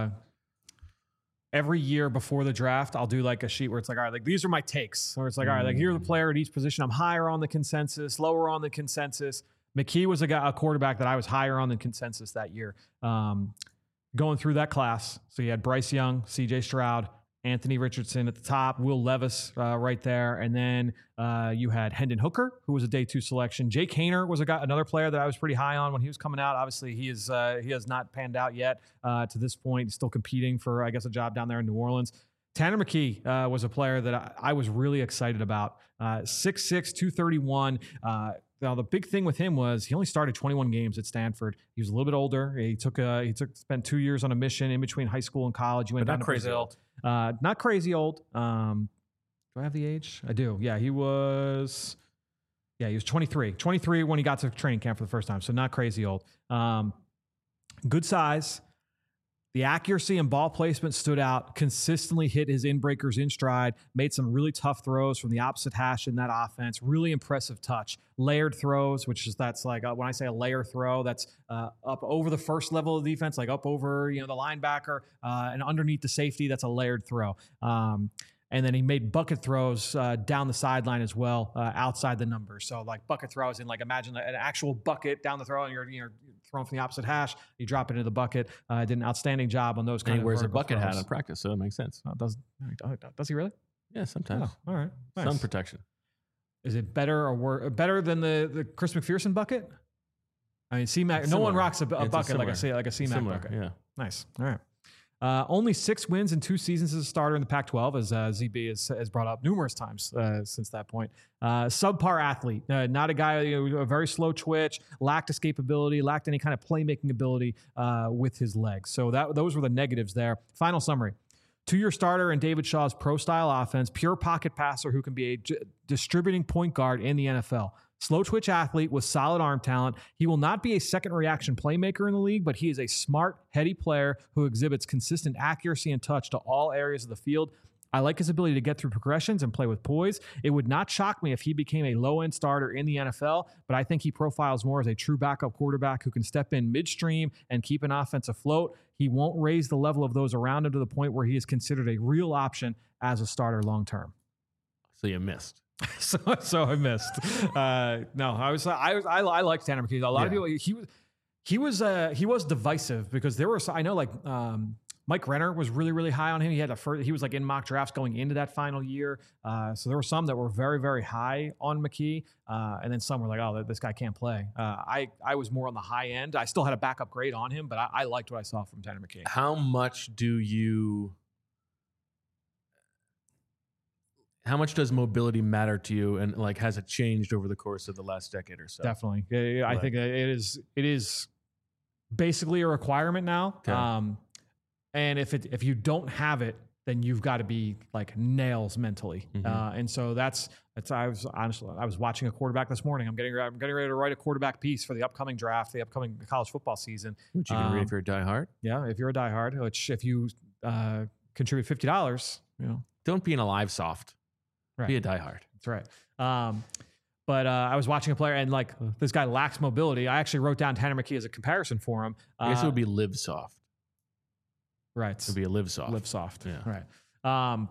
every year before the draft, I'll do like a sheet where it's like, all right, like these are my takes. Or it's like, all right, like here's the player at each position. I'm higher on the consensus, lower on the consensus. McKee was a quarterback that I was higher on the consensus that year. Going through that class. So you had Bryce Young, CJ Stroud, Anthony Richardson at the top, Will Levis right there. And then you had Hendon Hooker, who was a day 2 selection. Jake Haener was another player that I was pretty high on when he was coming out. Obviously, he has not panned out yet to this point. He's still competing for, I guess, a job down there in New Orleans. Tanner McKee was a player that I was really excited about. 6'6", 231. Now the big thing with him was he only started 21 games at Stanford. He was a little bit older. He spent 2 years on a mission in between high school and college. He went down to Brazil. Not crazy old. Do I have the age? I do. Yeah, he was 23. 23 when he got to training camp for the first time. So not crazy old. Good size. The accuracy and ball placement stood out, consistently hit his in-breakers in stride, made some really tough throws from the opposite hash in that offense. Really impressive touch. Layered throws, that's like, when I say a layer throw, that's up over the first level of defense, like up over the linebacker and underneath the safety. That's a layered throw. And then he made bucket throws down the sideline as well, outside the numbers. So like bucket throws, and like imagine an actual bucket down the throw, and you're throwing from the opposite hash. You drop it into the bucket. Did an outstanding job on those kind of. He wears a bucket throws. hat in practice, so it makes sense. Does he really? Yeah, sometimes. Oh, all right. Nice. Sun protection. Is it better or better than the Chris McPherson bucket? I mean, C-Mac. No one rocks a bucket like a C-Mac bucket. Yeah. Nice. All right. Only 6 wins in 2 seasons as a starter in the Pac-12, as ZB has brought up numerous times since that point. Subpar athlete, not a guy, a very slow twitch, lacked escapability, lacked any kind of playmaking ability with his legs. So those were the negatives there. Final summary. 2-year starter in David Shaw's pro-style offense, pure pocket passer who can be a distributing point guard in the NFL. Slow twitch athlete with solid arm talent. He will not be a second reaction playmaker in the league, but he is a smart, heady player who exhibits consistent accuracy and touch to all areas of the field. I like his ability to get through progressions and play with poise. It would not shock me if he became a low-end starter in the NFL, but I think he profiles more as a true backup quarterback who can step in midstream and keep an offense afloat. He won't raise the level of those around him to the point where he is considered a real option as a starter long-term. So you missed. So I missed. No, I liked Tanner McKee. A lot of people. He was divisive because there were. I know like Mike Renner was really, really high on him. He was like in mock drafts going into that final year. So there were some that were very, very high on McKee. And then some were like, oh, this guy can't play. I was more on the high end. I still had a backup grade on him, but I liked what I saw from Tanner McKee. How much does mobility matter to you, and like has it changed over the course of the last decade or so? Definitely. I think it is basically a requirement now. Okay. And if you don't have it, then you've got to be like nails mentally. Mm-hmm. And so I was watching a quarterback this morning. I'm getting ready to write a quarterback piece for the upcoming draft, the upcoming college football season. Which you can read if you're a diehard. Yeah, if you're a diehard, which if you contribute $50, don't be an alive soft. Right. Be a diehard. That's right. But I was watching a player, and like this guy lacks mobility. I actually wrote down Tanner McKee as a comparison for him. I guess it would be live soft. Right. It would be a live soft. Live soft. Yeah. Right.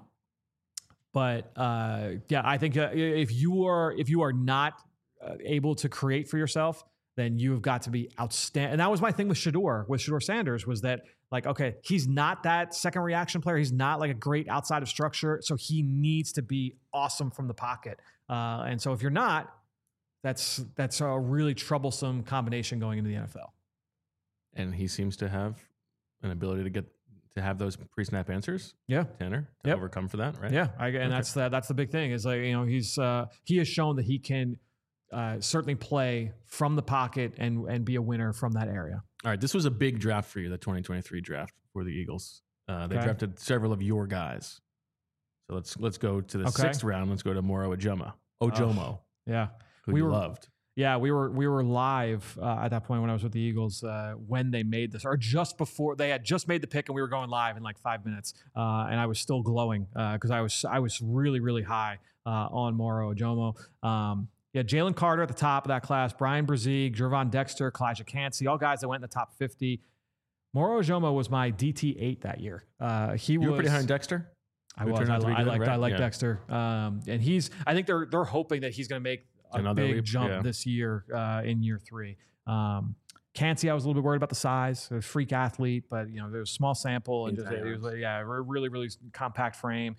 Yeah, I think if you are not able to create for yourself, then you have got to be outstanding. And that was my thing with Shedeur Sanders, was that like, okay, he's not that second reaction player. He's not like a great outside of structure. So he needs to be awesome from the pocket. And so if you're not, that's a really troublesome combination going into the NFL. And he seems to have an ability to have those pre-snap answers. Yeah. Tanner, to overcome for that, right? Yeah. That's the big thing is like, he has shown that he can certainly play from the pocket and be a winner from that area. All right. This was a big draft for you, the 2023 draft for the Eagles. They drafted several of your guys. So let's go to the sixth round. Let's go to Moro Ojomo. Yeah. Who we loved. Yeah, we were live at that point when I was with the Eagles when they made this, or just before they had just made the pick, and we were going live in like 5 minutes, and I was still glowing because I was really, really high on Moro Ojomo. Jalen Carter at the top of that class, Brian Brzee, Gervon Dexter, Kalijah Cansey, all guys that went in the top 50. Moro Ojomo was my DT8 that year. You were pretty high on Dexter? I like Dexter. And I think they're hoping that he's going to make a big jump this year in year 3. Cansey, I was a little bit worried about the size. A freak athlete, but there was a small sample and really, really compact frame.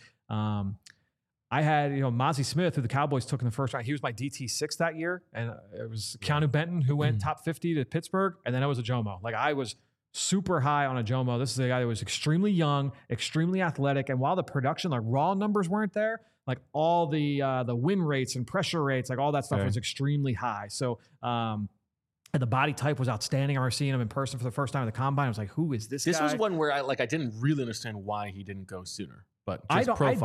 I had Mozzie Smith, who the Cowboys took in the first round. He was my DT6 that year, and it was Keanu Benton who went top 50 to Pittsburgh, and then it was Ojomo. Like I was super high on Ojomo. This is a guy that was extremely young, extremely athletic, and while the production, like raw numbers weren't there, like all the win rates and pressure rates, like all that stuff was extremely high. So, and the body type was outstanding. I remember seeing him in person for the first time at the combine. I was like, who is this guy? This was one where I didn't really understand why he didn't go sooner. But I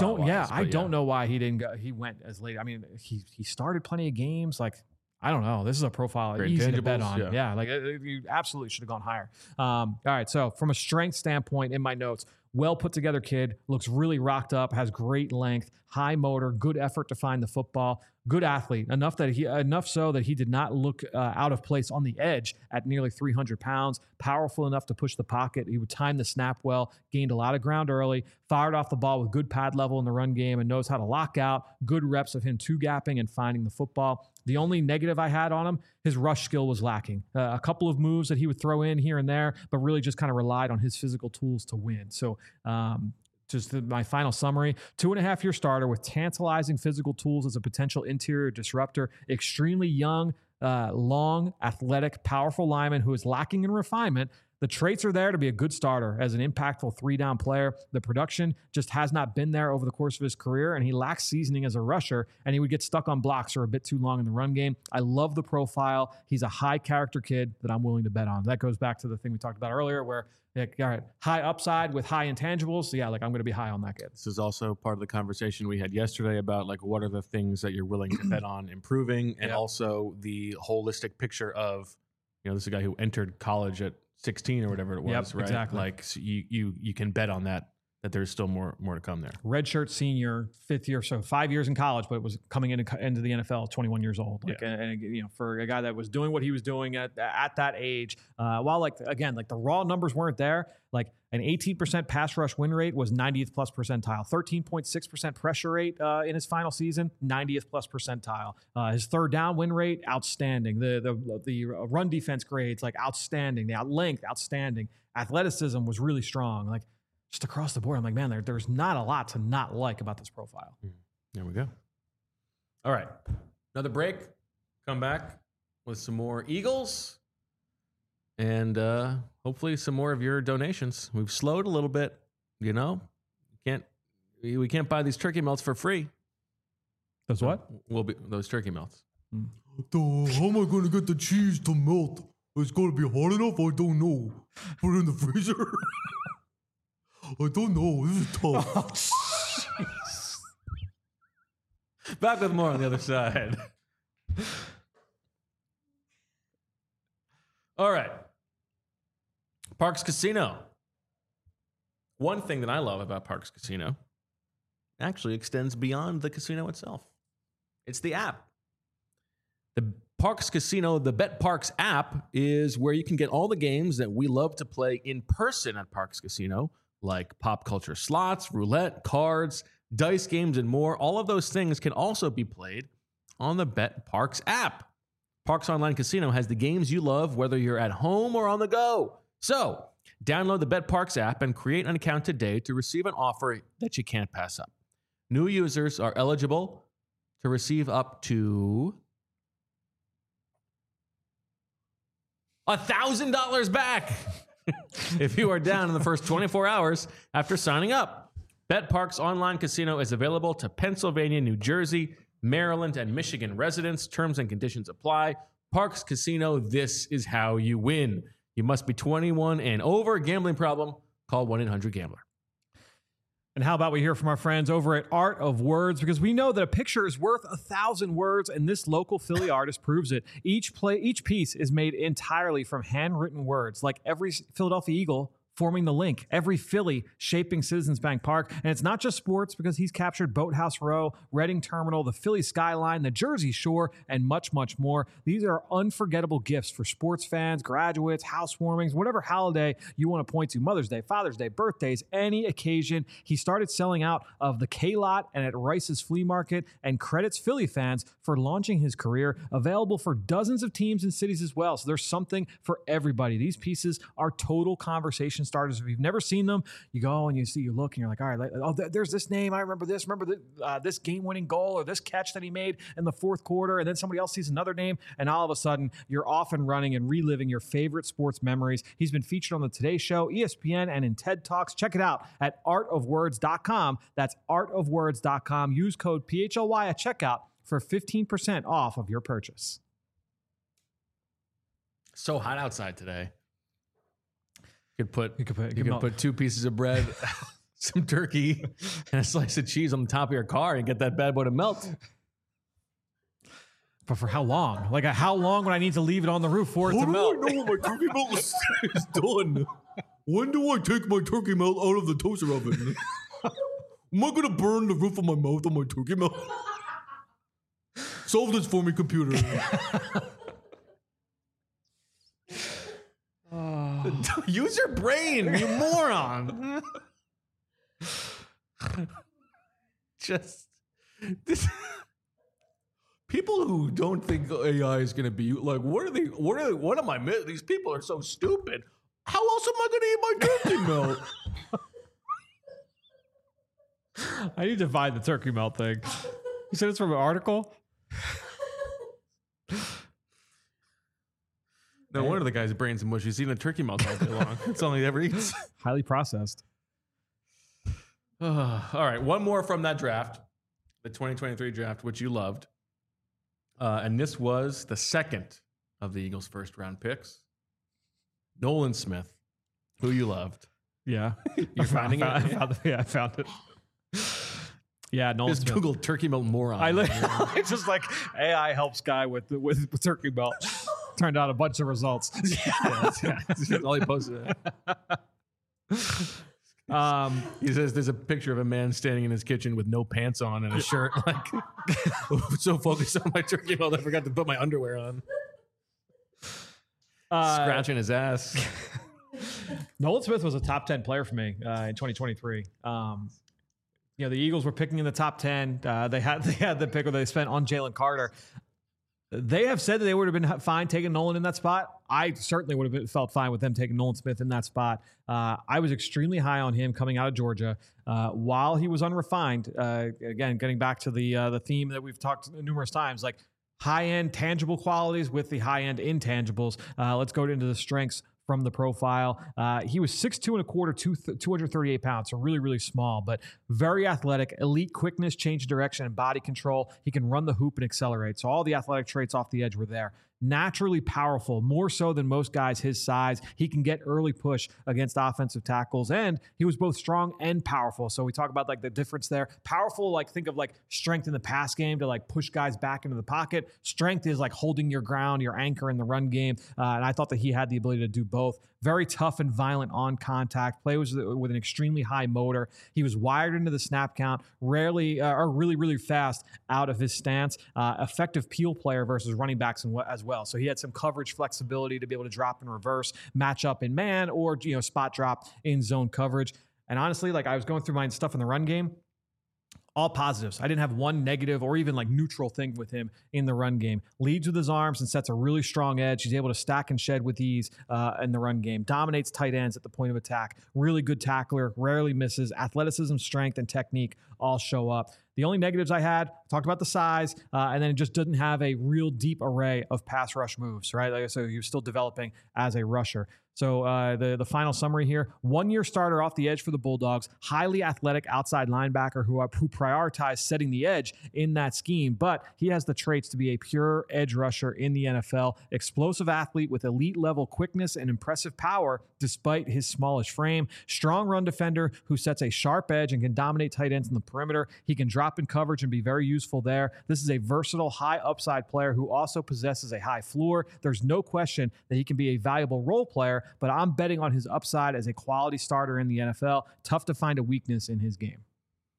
don't know why he didn't go. He went as late. I mean, he started plenty of games. Like, I don't know. This is a profile easy to bet on. Yeah, like you absolutely should have gone higher. All right. So from a strength standpoint, in my notes, well put together kid, looks really rocked up, has great length, high motor, good effort to find the football, good athlete, enough so that he did not look out of place on the edge at nearly 300 pounds, powerful enough to push the pocket. He would time the snap well, gained a lot of ground early, fired off the ball with good pad level in the run game, and knows how to lock out, good reps of him two-gapping and finding the football. The only negative I had on him, his rush skill was lacking. A couple of moves that he would throw in here and there, but really just kind of relied on his physical tools to win. So just my final summary, 2.5-year starter with tantalizing physical tools as a potential interior disruptor, extremely young, long, athletic, powerful lineman who is lacking in refinement. The traits are there to be a good starter as an impactful 3-down player. The production just has not been there over the course of his career, and he lacks seasoning as a rusher, and he would get stuck on blocks or a bit too long in the run game. I love the profile. He's a high-character kid that I'm willing to bet on. That goes back to the thing we talked about earlier where, all right, high upside with high intangibles. So, yeah, like I'm going to be high on that kid. This is also part of the conversation we had yesterday about, like, what are the things that you're willing to bet on improving, and also the holistic picture of, this is a guy who entered college at 16 or whatever it was, right? Exactly. Like so you can bet on that there's still more to come there. Redshirt senior, 5th year, so 5 years in college, but was coming into the NFL at 21 years old. Like, and for a guy that was doing what he was doing at that age, while the raw numbers weren't there, like an 18% pass rush win rate was 90th plus percentile, 13.6% pressure rate in his final season, 90th plus percentile. His third down win rate, outstanding. The run defense grades, like outstanding. The length, outstanding. Athleticism was really strong. Like just across the board, I'm like, man, there's not a lot to not like about this profile. There we go. All right. Another break. Come back with some more Eagles and hopefully some more of your donations. We've slowed a little bit, we can't buy these turkey melts for free. Those what? Those turkey melts. How am I going to get the cheese to melt? It's going to be hot enough? I don't know. Put it in the freezer? I don't know. This is tough. Back with more on the other side. All right. Parx Casino. One thing that I love about Parx Casino actually extends beyond the casino itself. It's the app. The Parx Casino, the BetParx app, is where you can get all the games that we love to play in person at Parx Casino, like pop culture slots, roulette, cards, dice games, and more. All of those things can also be played on the BetParx app. Parx Online Casino has the games you love, whether you're at home or on the go. So, download the BetParx app and create an account today to receive an offer that you can't pass up. New users are eligible to receive up to $1,000 back if you are down in the first 24 hours after signing up. BetParx Online Casino is available to Pennsylvania, New Jersey, Maryland, and Michigan residents. Terms and conditions apply. Parx Casino, this is how you win. You must be 21 and over. Gambling problem? Call 1-800-GAMBLER. And how about we hear from our friends over at Art of Words, because we know that a picture is worth 1,000 words, and this local Philly artist proves it. Each piece is made entirely from handwritten words, like every Philadelphia Eagle forming the link, every Philly shaping Citizens Bank Park. And it's not just sports, because he's captured Boathouse Row, Reading Terminal, the Philly skyline, the Jersey Shore, and much, much more. These are unforgettable gifts for sports fans, graduates, housewarmings, whatever holiday you want to point to, Mother's Day, Father's Day, birthdays, any occasion. He started selling out of the K-Lot and at Rice's Flea Market, and credits Philly fans for launching his career, available for dozens of teams and cities as well. So there's something for everybody. These pieces are total conversation starters. If you've never seen them, you go and you look and you're like, all right, there's this name. I remember this. Remember this game-winning goal or this catch that he made in the fourth quarter. And then somebody else sees another name, and all of a sudden you're off and running and reliving your favorite sports memories. He's been featured on the Today Show, ESPN, and in TED Talks. Check it out at artofwords.com. That's artofwords.com. Use code PHLY at checkout for 15% off of your purchase. So hot outside today. You could put put 2 pieces of bread, some turkey, and a slice of cheese on the top of your car and get that bad boy to melt. But for how long? Like, how long would I need to leave it on the roof for it to melt? How do I know when my turkey melt is done? When do I take my turkey melt out of the toaster oven? Am I going to burn the roof of my mouth on my turkey melt? Solve this for me, computer. Use your brain, you moron. Just this. People who don't think AI is going to be like, what am I missing? These people are so stupid. How else am I going to eat my turkey melt? I need to find the turkey melt thing. You said it's from an article? No wonder the guy's brain's mush. He's eating a turkey melt all day long. It's all he ever eats. Highly processed. All right, one more from that draft, the 2023 draft, which you loved. And this was the second of the Eagles' first round picks. Nolan Smith, who you loved. Yeah. You're finding it? I found it. Yeah, Nolan Just Smith. Google turkey melt moron. I just like AI helps guy with turkey melt. Turned out a bunch of results. That's all he posted. He says there's a picture of a man standing in his kitchen with no pants on and a shirt. Like, so focused on my turkey melt, I forgot to put my underwear on. Scratching his ass. Nolan Smith was a top 10 player for me in 2023. The Eagles were picking in the top 10. They had the pick where they spent on Jalen Carter. They have said that they would have been fine taking Nolan in that spot. I certainly would have felt fine with them taking Nolan Smith in that spot. I was extremely high on him coming out of Georgia. While he was unrefined, again, getting back to the theme that we've talked numerous times, like high-end tangible qualities with the high-end intangibles. Let's go into the strengths from the profile. He was 6'2" and a quarter, 238 pounds, so really, really small, but very athletic, elite quickness, change of direction, and body control. He can run the hoop and accelerate. So all the athletic traits off the edge were there. Naturally powerful, more so than most guys his size. He can get early push against offensive tackles, and he was both strong and powerful. So we talk about like the difference there. Powerful, like think of like strength in the pass game to like push guys back into the pocket. Strength is like holding your ground, your anchor in the run game. And I thought that he had the ability to do both. Very tough and violent on contact. Play was with an extremely high motor. He was wired into the snap count, rarely or really, really fast out of his stance. Effective peel player versus running backs as well. So he had some coverage flexibility to be able to drop in reverse, match up in man, or spot drop in zone coverage. And honestly, like I was going through my stuff in the run game. All positives. I didn't have one negative or even like neutral thing with him in the run game. Leads with his arms and sets a really strong edge. He's able to stack and shed with ease in the run game. Dominates tight ends at the point of attack. Really good tackler. Rarely misses. Athleticism, strength, and technique all show up. The only negatives I had, talked about the size, and then it just didn't have a real deep array of pass rush moves, right? Like, so he was still developing as a rusher. So the final summary here, 1 year starter off the edge for the Bulldogs, highly athletic outside linebacker who prioritized setting the edge in that scheme, but he has the traits to be a pure edge rusher in the NFL, explosive athlete with elite level quickness and impressive power despite his smallish frame, strong run defender who sets a sharp edge and can dominate tight ends in the perimeter. He can drop in coverage and be very useful there. This is a versatile, high upside player who also possesses a high floor. There's no question that he can be a valuable role player, but I'm betting on his upside as a quality starter in the NFL. Tough to find a weakness in his game.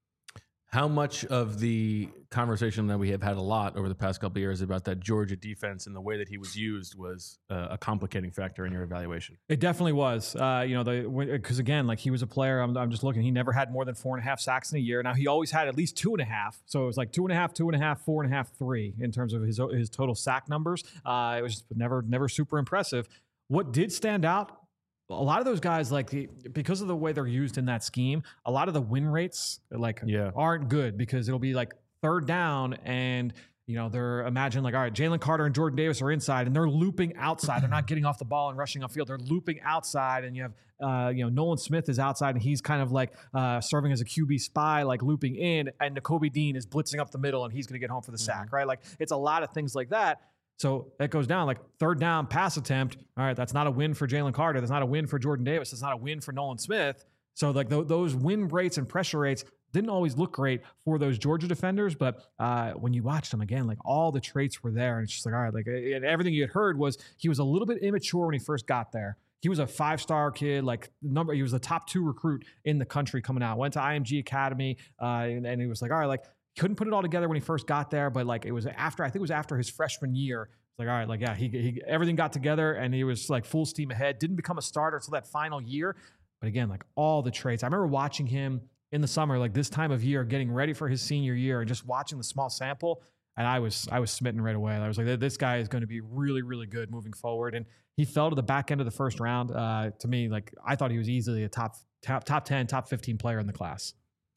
How much of the conversation that we have had a lot over the past couple of years about that Georgia defense and the way that he was used was a complicating factor in your evaluation? It definitely was. Because again, like he was a player. I'm just looking. He never had more than 4.5 sacks in a year. Now he always had at least 2.5. So it was like 2.5, 2.5, 4.5, 3 in terms of his total sack numbers. It was just never super impressive. What did stand out? A lot of those guys, because of the way they're used in that scheme, a lot of the win rates aren't good because it'll be like third down and they're imagine like, all right, Jalen Carter and Jordan Davis are inside and they're looping outside. They're not getting off the ball and rushing upfield. They're looping outside, and you have Nolan Smith is outside and he's kind of like serving as a QB spy, like looping in, and Nakobe Dean is blitzing up the middle and he's going to get home for the sack, right? Like it's a lot of things like that. So that goes down like third down pass attempt. All right, that's not a win for Jalen Carter. That's not a win for Jordan Davis. That's not a win for Nolan Smith. So like those win rates and pressure rates didn't always look great for those Georgia defenders. But when you watched them again, like all the traits were there. And it's just like, all right, like and everything you had heard was he was a little bit immature when he first got there. He was a 5-star kid, he was the top 2 recruit in the country coming out. Went to IMG Academy, and he was like, all right, like, couldn't put it all together when he first got there, but like it was after his freshman year. It's like, all right, like, yeah, he everything got together and he was like full steam ahead. Didn't become a starter until that final year. But again, like all the traits. I remember watching him in the summer, like this time of year, getting ready for his senior year and just watching the small sample. And I was smitten right away. I was like, this guy is going to be really, really good moving forward. And he fell to the back end of the first round. To me, like I thought he was easily a top 10, top 15 player in the class.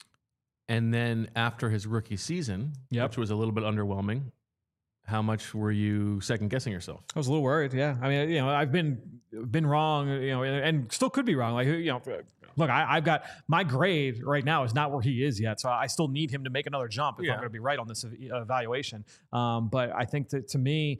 And then after his rookie season, which was a little bit underwhelming, how much were you second guessing yourself? I was a little worried. Yeah. I mean, I've been wrong, and still could be wrong. Like, look, I've got my grade right now is not where he is yet. So I still need him to make another jump if I'm going to be right on this evaluation. But I think that to me,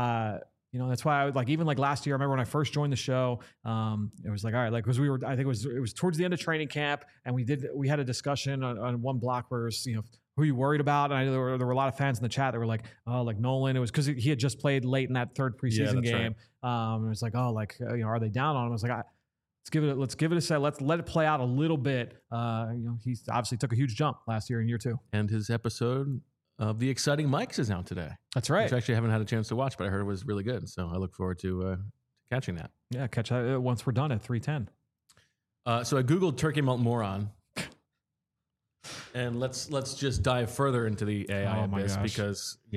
that's why I was like, even like last year, I remember when I first joined the show, it was like, all right, like, because I think it was towards the end of training camp, and we had a discussion on one block where it was, who are you worried about? And there were a lot of fans in the chat that were like, oh, like Nolan. It was because he had just played late in that third preseason game. Right. It was like, oh, like, are they down on him? I was like, let's give it a set. Let's let it play out a little bit. He obviously took a huge jump last year in year 2. And his episode of The Exciting Mikes is out today. That's right. Which I actually haven't had a chance to watch, but I heard it was really good. So I look forward to catching that. Yeah, catch that once we're done at 3:10. So I Googled turkey melt moron. And let's just dive further into the AI of this because,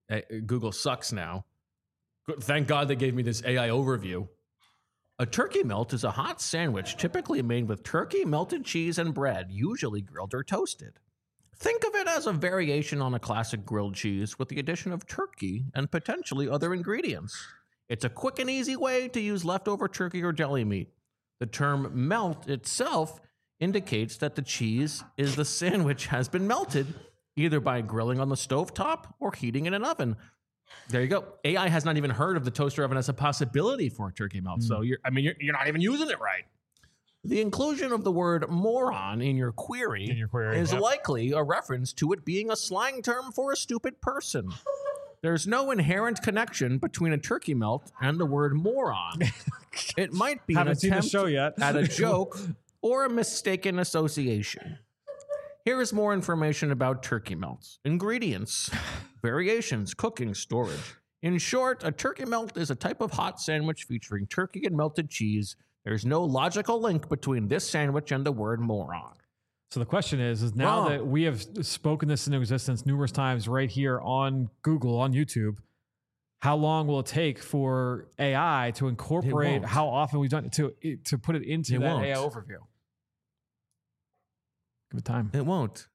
Google sucks now. Thank God they gave me this AI overview. A turkey melt is a hot sandwich typically made with turkey, melted cheese, and bread, usually grilled or toasted. Think of it as a variation on a classic grilled cheese with the addition of turkey and potentially other ingredients. It's a quick and easy way to use leftover turkey or deli meat. The term melt itself indicates that the cheese is the sandwich has been melted, either by grilling on the stovetop or heating in an oven. There you go. AI has not even heard of the toaster oven as a possibility for a turkey melt. So you're not even using it right. The inclusion of the word moron in your query is likely a reference to it being a slang term for a stupid person. There's no inherent connection between a turkey melt and the word moron. It might be an attempt at a joke or a mistaken association. Here is more information about turkey melts. Ingredients, variations, cooking, storage. In short, a turkey melt is a type of hot sandwich featuring turkey and melted cheese. There's no logical link between this sandwich and the word moron. So the question is now that we have spoken this into existence numerous times right here on Google, on YouTube, how long will it take for AI to incorporate how often we've done it to put it into that AI overview? Give it time. It won't.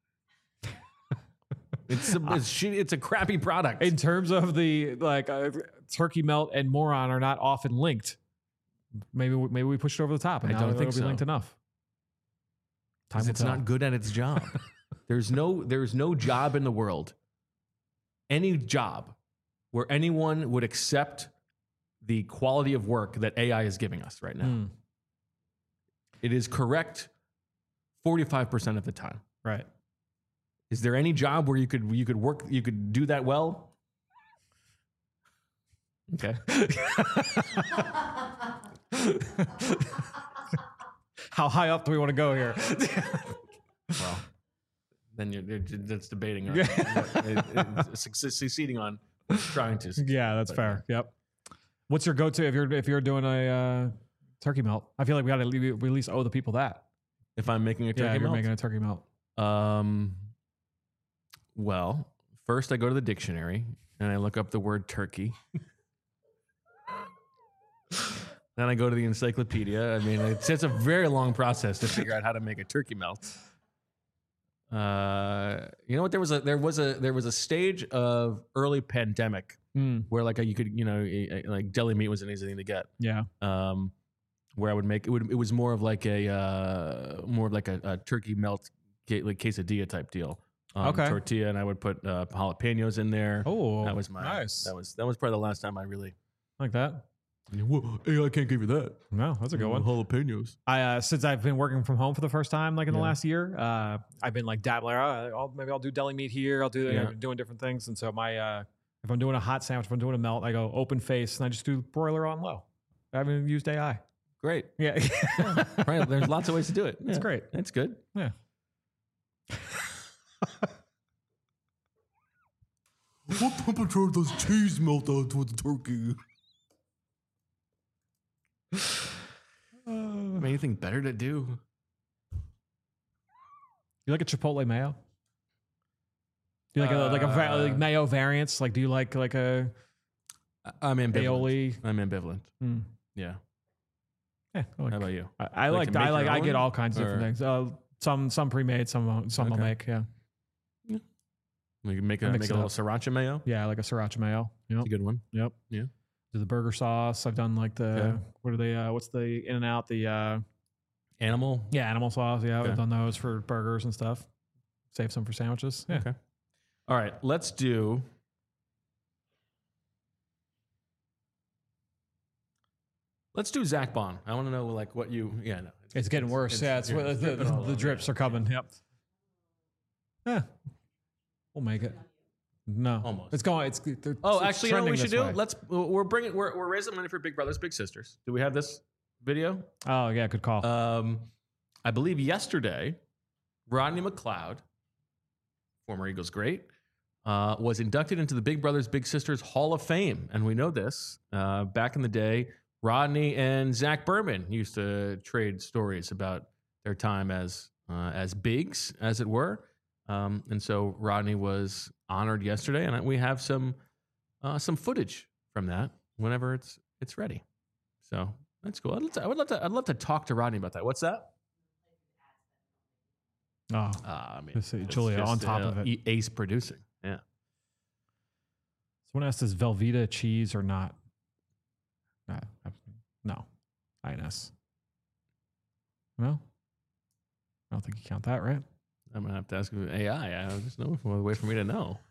It's a crappy product. In terms of the turkey melt and moron are not often linked. Maybe we push it over the top, and I don't think it'll be linked enough. It's not good at its job. There's no job in the world, any job, where anyone would accept the quality of work that AI is giving us right now. It is correct 45% of the time. Right. Is there any job where you could do that well? Okay. How high up do we want to go here? Well, then that's debating. Succeeding on trying to. Yeah, that's fair. Yep. What's your go-to if you're doing a turkey melt? I feel like we at least owe the people that. If I'm making a turkey melt? You're making a turkey melt. Well, first I go to the dictionary and I look up the word turkey. Then I go to the encyclopedia. I mean, it's a very long process to figure out how to make a turkey melt. You know what? There was a stage of early pandemic where you could deli meat was an easy thing to get. Yeah. Where I would make it was more of like a turkey melt quesadilla type deal. Tortilla, and I would put jalapenos in there. Oh, that was nice. That was probably the last time I really like that. Well, AI can't give you that. No, that's a good one. Jalapenos. I since I've been working from home for the first time, in the last year, I've been dabbling. Maybe I'll do deli meat here. I'll do doing different things. And so if I'm doing a hot sandwich, if I'm doing a melt, I go open face and I just do broiler on low. I haven't used AI. Great. Yeah. Right. There's lots of ways to do it. It's great. It's good. Yeah. What temperature does cheese melt out with the turkey? Anything better to do? You like a Chipotle mayo? Do you like a mayo variants? Do you like a? I'm ambivalent. Aioli? I'm ambivalent. Yeah. Yeah. How about you? I get all kinds of different things. Some pre-made, some I'll make. Yeah. We can make a little sriracha mayo. Yeah, like a sriracha mayo. Yep. It's a good one. Yep. Yeah. Do the burger sauce. I've done what are they? What's the In-N-Out? The animal. Yeah, animal sauce. Yeah, Okay. I've done those for burgers and stuff. Save some for sandwiches. Yeah. Okay. All right. Let's do. Zach Bond. I want to know what you. Yeah, no. It's getting worse. The drips are coming. Yep. Yeah. We'll make it. No, almost. It's going. Actually, you know what we should do? We're raising money for Big Brothers Big Sisters. Do we have this video? Oh yeah, good call. I believe yesterday, Rodney McLeod, former Eagles great, was inducted into the Big Brothers Big Sisters Hall of Fame, and we know this. Back in the day, Rodney and Zach Berman used to trade stories about their time as bigs, as it were. And so Rodney was honored yesterday, and we have some some footage from that whenever it's ready. So that's cool. I'd love to talk to Rodney about that. What's that? Oh, I mean, just Julia on top of it. Ace producing. Yeah. Someone asked, is Velveeta cheese or not? No. INS. No? I don't think you count that, right? I'm going to have to ask AI. There's no way for me to know.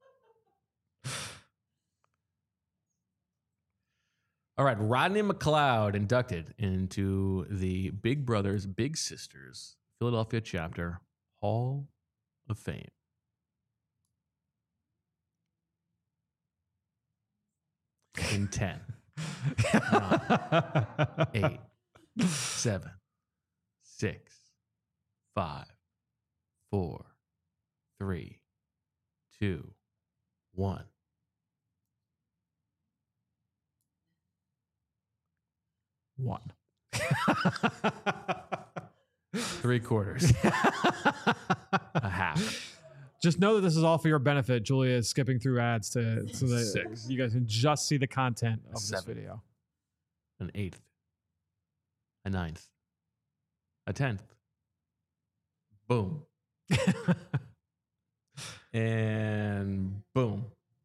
All right. Rodney McLeod inducted into the Big Brothers Big Sisters Philadelphia chapter Hall of Fame. In 10, 9, 8, 7, 6, 5, 4, 3, 2, 1. One. 3/4. A half. Just know that this is all for your benefit. Julia is skipping through ads so that 6. you guys can just see the content of 7. this video. An 8th. A 9th. A 10th. Boom. And boom.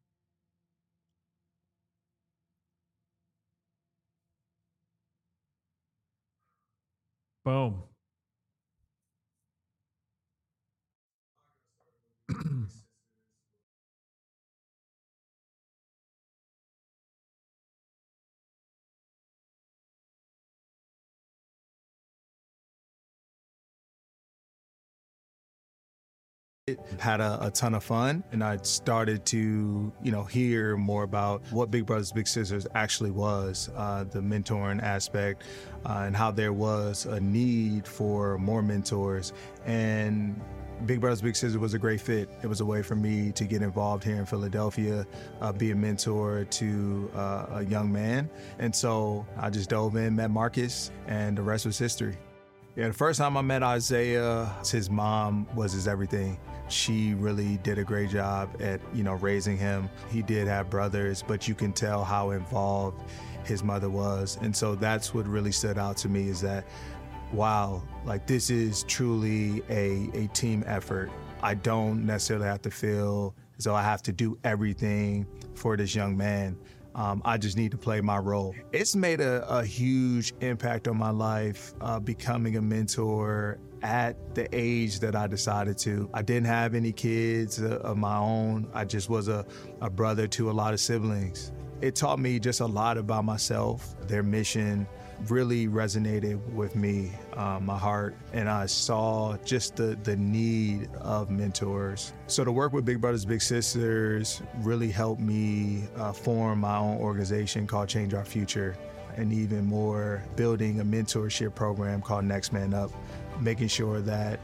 Boom. Had a ton of fun, and I started to, hear more about what Big Brothers Big Sisters actually was, the mentoring aspect, and how there was a need for more mentors. And Big Brothers Big Sisters was a great fit. It was a way for me to get involved here in Philadelphia, be a mentor to a young man. And so I just dove in, met Marcus, and the rest was history. Yeah, the first time I met Isaiah, his mom was his everything. She really did a great job at, raising him. He did have brothers, but you can tell how involved his mother was. And so that's what really stood out to me, is that, wow, like, this is truly a team effort. I don't necessarily have to feel as though I have to do everything for this young man. I just need to play my role. It's made a huge impact on my life, becoming a mentor at the age that I decided to. I didn't have any kids of my own. I just was a brother to a lot of siblings. It taught me just a lot about myself. Their mission really resonated with me, my heart, and I saw just the need of mentors. So to work with Big Brothers Big Sisters really helped me form my own organization called Change Our Future, and even more, building a mentorship program called Next Man Up, making sure that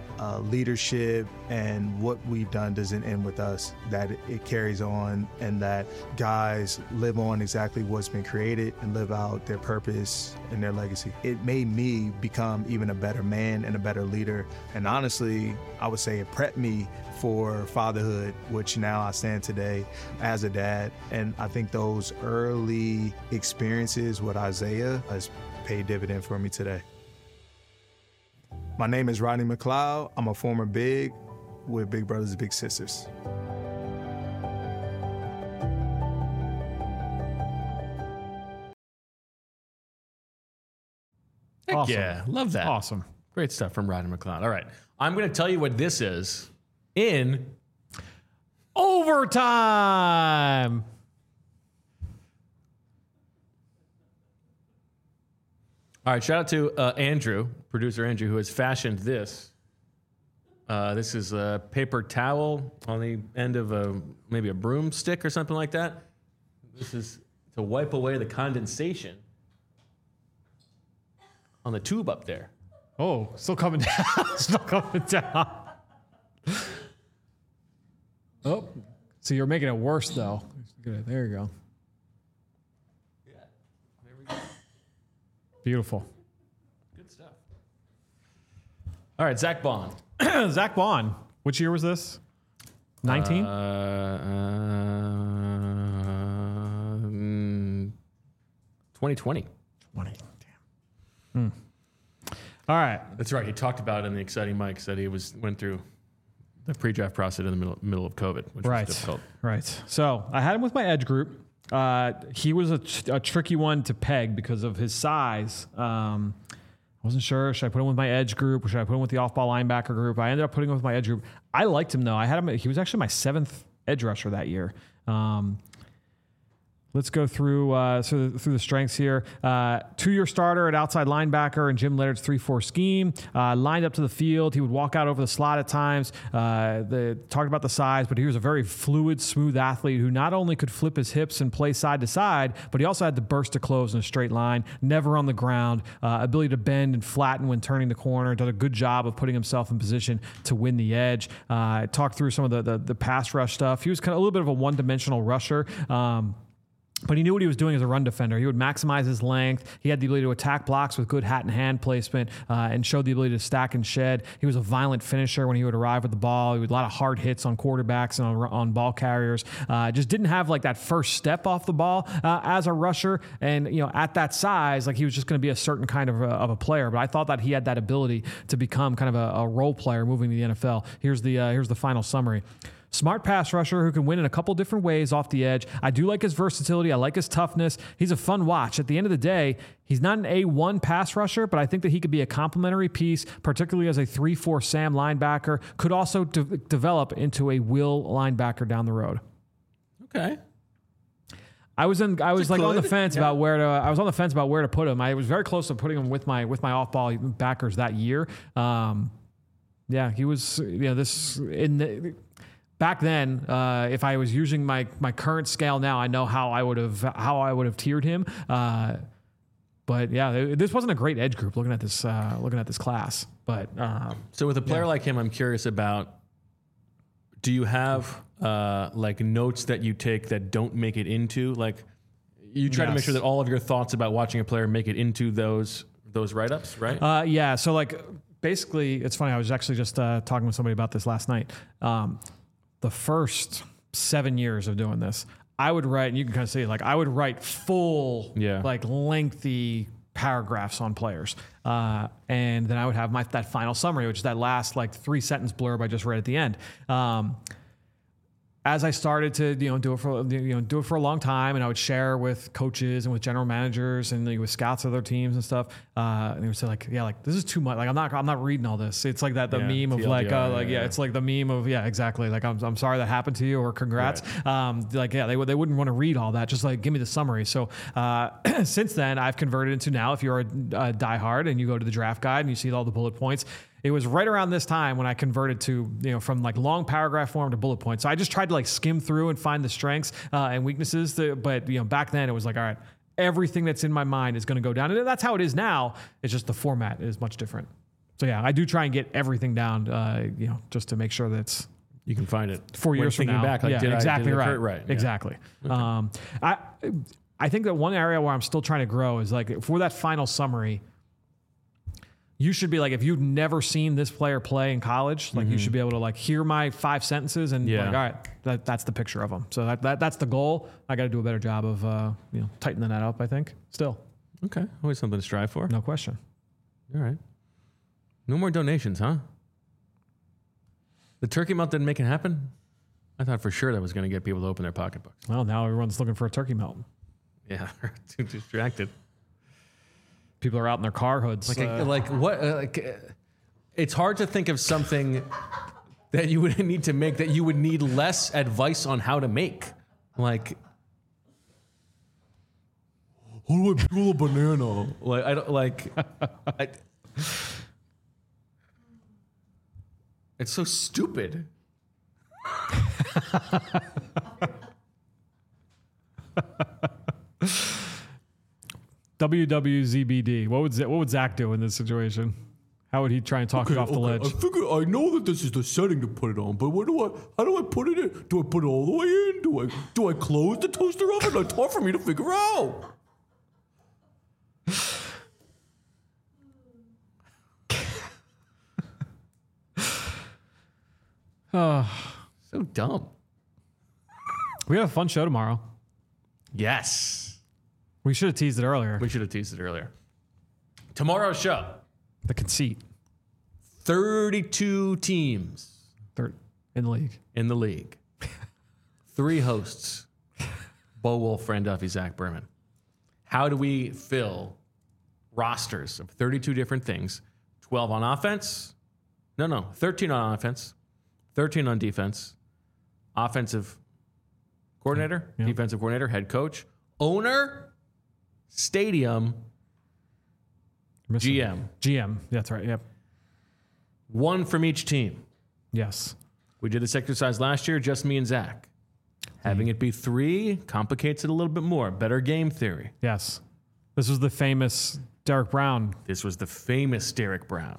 leadership and what we've done doesn't end with us, that it carries on, and that guys live on exactly what's been created and live out their purpose and their legacy. It made me become even a better man and a better leader. And honestly, I would say it prepped me for fatherhood, which now I stand today as a dad. And I think those early experiences with Isaiah has paid dividend for me today. My name is Rodney McLeod. I'm a former Big with Big Brothers Big Sisters. Heck Awesome. yeah, love that. Awesome. Great stuff from Rodney McLeod. All right, I'm going to tell you what this is in Overtime. All right, shout out to Andrew, producer Andrew, who has fashioned this. This is a paper towel on the end of maybe a broomstick or something like that. This is to wipe away the condensation on the tube up there. Oh, still coming down. Still coming down. Oh, so you're making it worse, though. Good. There you go. Yeah, there we go. Beautiful. Good stuff. All right, Zach Bond. Zach Bond. Which year was this? 19? 2020. 20. Damn. All right. That's right. He talked about it in the Exciting Mike that he went through the pre-draft process in the middle of COVID, which was difficult. Right. So I had him with my edge group. He was a tricky one to peg because of his size. I wasn't sure. Should I put him with my edge group or should I put him with the off-ball linebacker group? I ended up putting him with my edge group. I liked him, though. I had him. He was actually my 7th edge rusher that year. Let's go through the strengths here. 2-year starter at outside linebacker in Jim Leonard's 3-4 scheme. Lined up to the field. He would walk out over the slot at times. Talked about the size, but he was a very fluid, smooth athlete who not only could flip his hips and play side to side, but he also had the burst to close in a straight line, never on the ground, ability to bend and flatten when turning the corner. Did a good job of putting himself in position to win the edge. Talked through some of the pass rush stuff. He was kind of a little bit of a one-dimensional rusher. But he knew what he was doing as a run defender. He would maximize his length. He had the ability to attack blocks with good hat and hand placement and showed the ability to stack and shed. He was a violent finisher when he would arrive with the ball. He would a lot of hard hits on quarterbacks and on ball carriers. Just didn't have like that first step off the ball as a rusher. And at that size, like he was just going to be a certain kind of a player. But I thought that he had that ability to become kind of a role player moving to the NFL. Here's the final summary. Smart pass rusher who can win in a couple different ways off the edge. I do like his versatility. I like his toughness. He's a fun watch. At the end of the day, he's not an A1 pass rusher, but I think that he could be a complementary piece, particularly as a 3-4 Sam linebacker. Could also develop into a will linebacker down the road. Okay. I was on the fence about where to put him. I was very close to putting him with my off-ball backers that year. He was back then, if I was using my current scale now, I know how I would have tiered him. But yeah, this wasn't a great edge group looking at this class. But so with a player like him, I'm curious about. Do you have like notes that you take that don't make it into like you try to make sure that all of your thoughts about watching a player make it into those write-ups, right? Yeah. So like basically, it's funny. I was actually just talking with somebody about this last night. The first 7 years of doing this, I would write, and you can kind of see, like, I would write full, like, lengthy paragraphs on players. And then I would have that final summary, which is that last, like, 3-sentence blurb I just read at the end. As I started to do it for a long time, and I would share with coaches and with general managers and with scouts of their teams and stuff, and they would say like this is too much. Like I'm not reading all this. It's like the meme of TLDR, it's like the meme of exactly. Like I'm sorry that happened to you or congrats. Right. They wouldn't want to read all that. Just like give me the summary. So since then I've converted into now if you're a diehard and you go to the draft guide and you see all the bullet points. It was right around this time when I converted to, from like long paragraph form to bullet points. So I just tried to like skim through and find the strengths and weaknesses. But back then it was like, all right, everything that's in my mind is going to go down. And that's how it is now. It's just the format is much different. So yeah, I do try and get everything down, just to make sure that you can find it 4 years from now. Back, like, exactly right. Right. Exactly. Okay. I think that one area where I'm still trying to grow is like for that final summary, you should be like, if you've never seen this player play in college, like you should be able to like hear my 5 sentences and like, all right, that's the picture of them. So that's the goal. I got to do a better job of, tightening that up, I think still. Okay. Always something to strive for. No question. All right. No more donations, huh? The turkey melt didn't make it happen. I thought for sure that was going to get people to open their pocketbooks. Well, now everyone's looking for a turkey melt. Yeah. Too distracted. People are out in their car hoods. It's hard to think of something that you would need to make that you would need less advice on how to make. Like, how do I peel a banana? Like, I don't like. It's so stupid. WWZBD. What would Zach do in this situation? How would he try and talk it off the ledge? I know that this is the setting to put it on, but how do I put it in? Do I put it all the way in? Do I close the toaster oven? It's hard for me to figure out. So dumb. We have a fun show tomorrow. Yes. We should have teased it earlier. We should have teased it earlier. Tomorrow's show. The conceit. 32 teams. Third in the league. 3 hosts. Bo Wolf, Fran Duffy, Zach Berman. How do we fill rosters of 32 different things? 12 on offense. No, 13 on offense. 13 on defense. Offensive coordinator, defensive coordinator, head coach, owner, stadium, GM. That's right. Yep. 1 from each team. Yes. We did this exercise last year, just me and Zach. Having it be 3 complicates it a little bit more. Better game theory. Yes. This was the famous Derek Brown. This was the famous Derek Brown.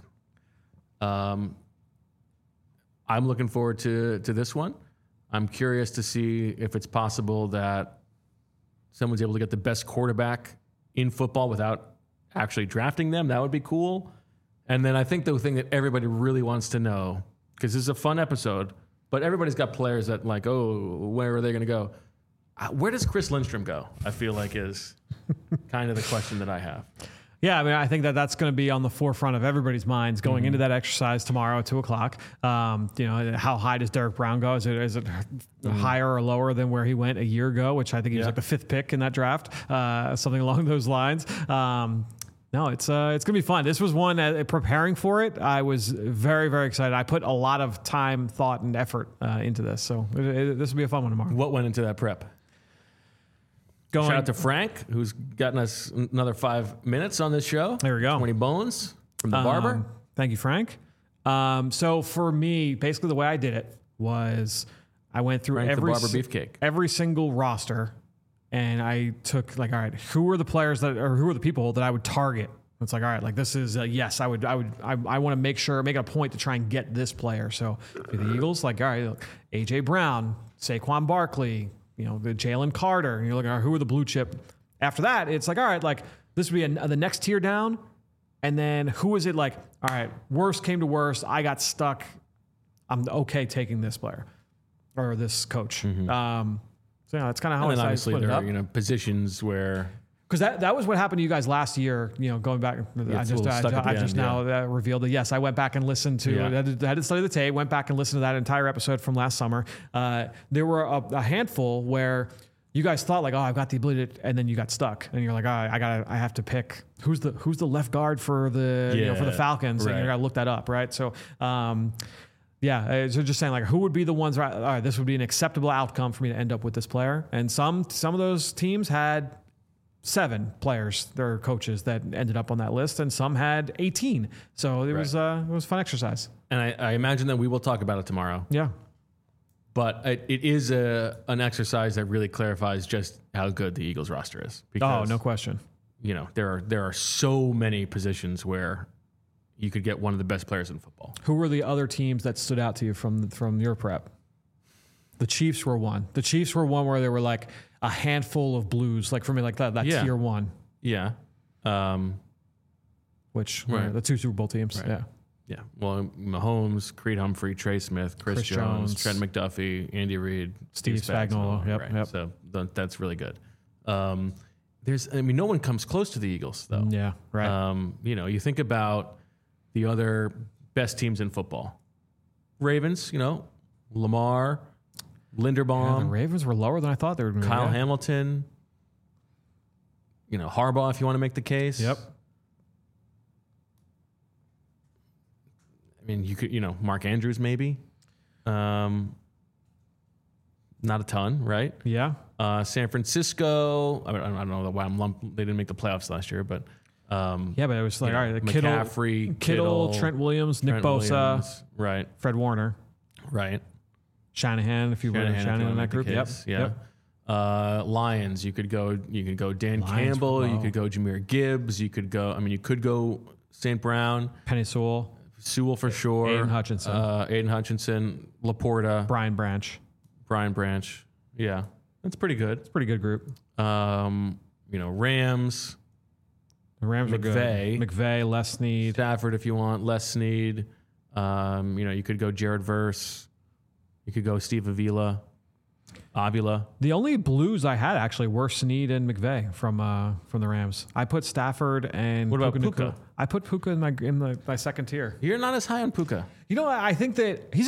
I'm looking forward to this one. I'm curious to see if it's possible that someone's able to get the best quarterback in football without actually drafting them. That would be cool. And then I think the thing that everybody really wants to know, because this is a fun episode, but everybody's got players that like, oh, where are they going to go? Where does Chris Lindstrom go? I feel like is kind of the question that I have. Yeah, I mean, I think that's going to be on the forefront of everybody's minds going into that exercise tomorrow at 2:00. How high does Derek Brown go? Is it higher or lower than where he went a year ago, which I think he was like the 5th pick in that draft, something along those lines. No, it's going to be fun. This was one, preparing for it, I was very, very excited. I put a lot of time, thought, and effort into this. So this will be a fun one tomorrow. What went into that prep? Shout out to Frank, who's gotten us another 5 minutes on this show. There we go. 20 bones from the barber. Thank you, Frank. So for me, basically the way I did it was I went through Frank the barber beefcake. Every single roster, and I took like, all right, who are the players who are the people that I would target? It's like, all right, like this is yes, I want to make it a point to try and get this player. So for the Eagles, like, all right, look, AJ Brown, Saquon Barkley, the Jalen Carter, and you're looking at who are the blue chip. After that, it's like, all right, like this would be the next tier down. And then who is it like, all right, worst came to worst, I got stuck. I'm okay taking this player or this coach. Mm-hmm. So that's kind of how I split it up. There are, positions where... Because that was what happened to you guys last year, going back. I just now revealed that, yes, I went back and listened to, I had to study the tape, went back and listened to that entire episode from last summer. There were a handful where you guys thought like, oh, I've got the ability to, and then you got stuck. And you're like, I have to pick who's the left guard for the, for the Falcons. Right. And you got to look that up, right? So, so just saying like, who would be the ones, all right, this would be an acceptable outcome for me to end up with this player. And some of those teams had 7 players, their coaches that ended up on that list, and some had 18. So it was a fun exercise. And I imagine that we will talk about it tomorrow. Yeah. But it is an exercise that really clarifies just how good the Eagles roster is. Because, no question. There are so many positions where you could get one of the best players in football. Who were the other teams that stood out to you from your prep? The Chiefs were one. The Chiefs were one where they were like a handful of blues, like for me, like that tier 1. Yeah. Which were the 2 Super Bowl teams. Right. Yeah. Yeah. Well, Mahomes, Creed Humphrey, Trey Smith, Chris Jones, Trent McDuffie, Andy Reid, Steve Spagnuolo. Yep. So that's really good. No one comes close to the Eagles though. Yeah. Right. You think about the other best teams in football. Ravens, Lamar, Linderbaum. The Ravens were lower than I thought they would be. Kyle Hamilton. Harbaugh, if you want to make the case. Yep. I mean, you could, Mark Andrews maybe. Not a ton, right? Yeah. San Francisco. I don't know why they didn't make the playoffs last year, but but it was like, all right, McCaffrey, Kittle, Trent Williams, Nick Bosa, right? Fred Warner, right? Shanahan, if you were Shanahan in that group. Yep. Lions, you could go Dan Campbell, you could go Jahmyr Gibbs, you could go St. Brown, Penei Sewell for sure, Aiden Hutchinson, Laporta, Brian Branch. Yeah, that's pretty good. It's a pretty good group. Rams. The Rams are good. McVay, Les Snead. Stafford, if you want, Les Snead. You could go Jared Verse. You could go Steve Avila. Avila. The only blues I had actually were Snead and McVay from the Rams. I put Stafford and What about Puka Puka? Nacua. I put Puka in my second tier. You're not as high on Puka. You know, I think that he's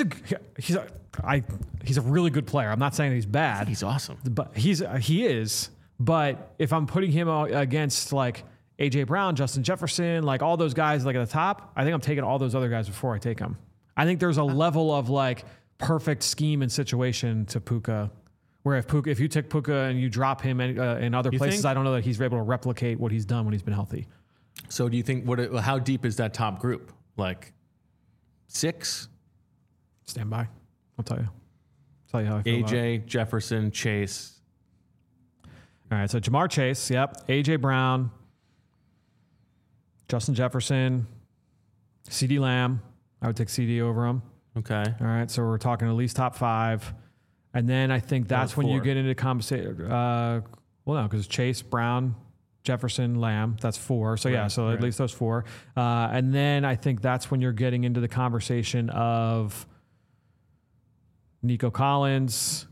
a really good player. I'm not saying that he's bad. He's awesome. But he is. But if I'm putting him against like AJ Brown, Justin Jefferson, like all those guys like at the top, I think I'm taking all those other guys before I take him. I think there's a level of like perfect scheme and situation to Puka, where if you take Puka and you drop him in other places, think? I don't know that he's able to replicate what he's done when he's been healthy. So do you think how deep is that top group? Like 6? Stand by. I'll tell you. How I feel about it. AJ, Jefferson, Chase. All right, so Jamar Chase, yep. AJ Brown, Justin Jefferson, CeeDee Lamb. I would take CD over him. Okay. All right, so we're talking at least top 5. And then I think that's when you 4. get into conversation. Well, no, because Chase, Brown, Jefferson, Lamb, that's 4. So, yeah, so at least those 4. And then I think that's when you're getting into the conversation of Nico Collins,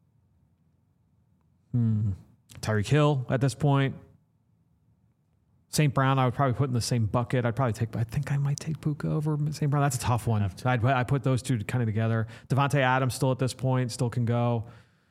Tyreek Hill at this point. St. Brown, I would probably put in the same bucket. I think I might take Puka over St. Brown. That's a tough one. I put those two kind of together. Devontae Adams still at this point, still can go.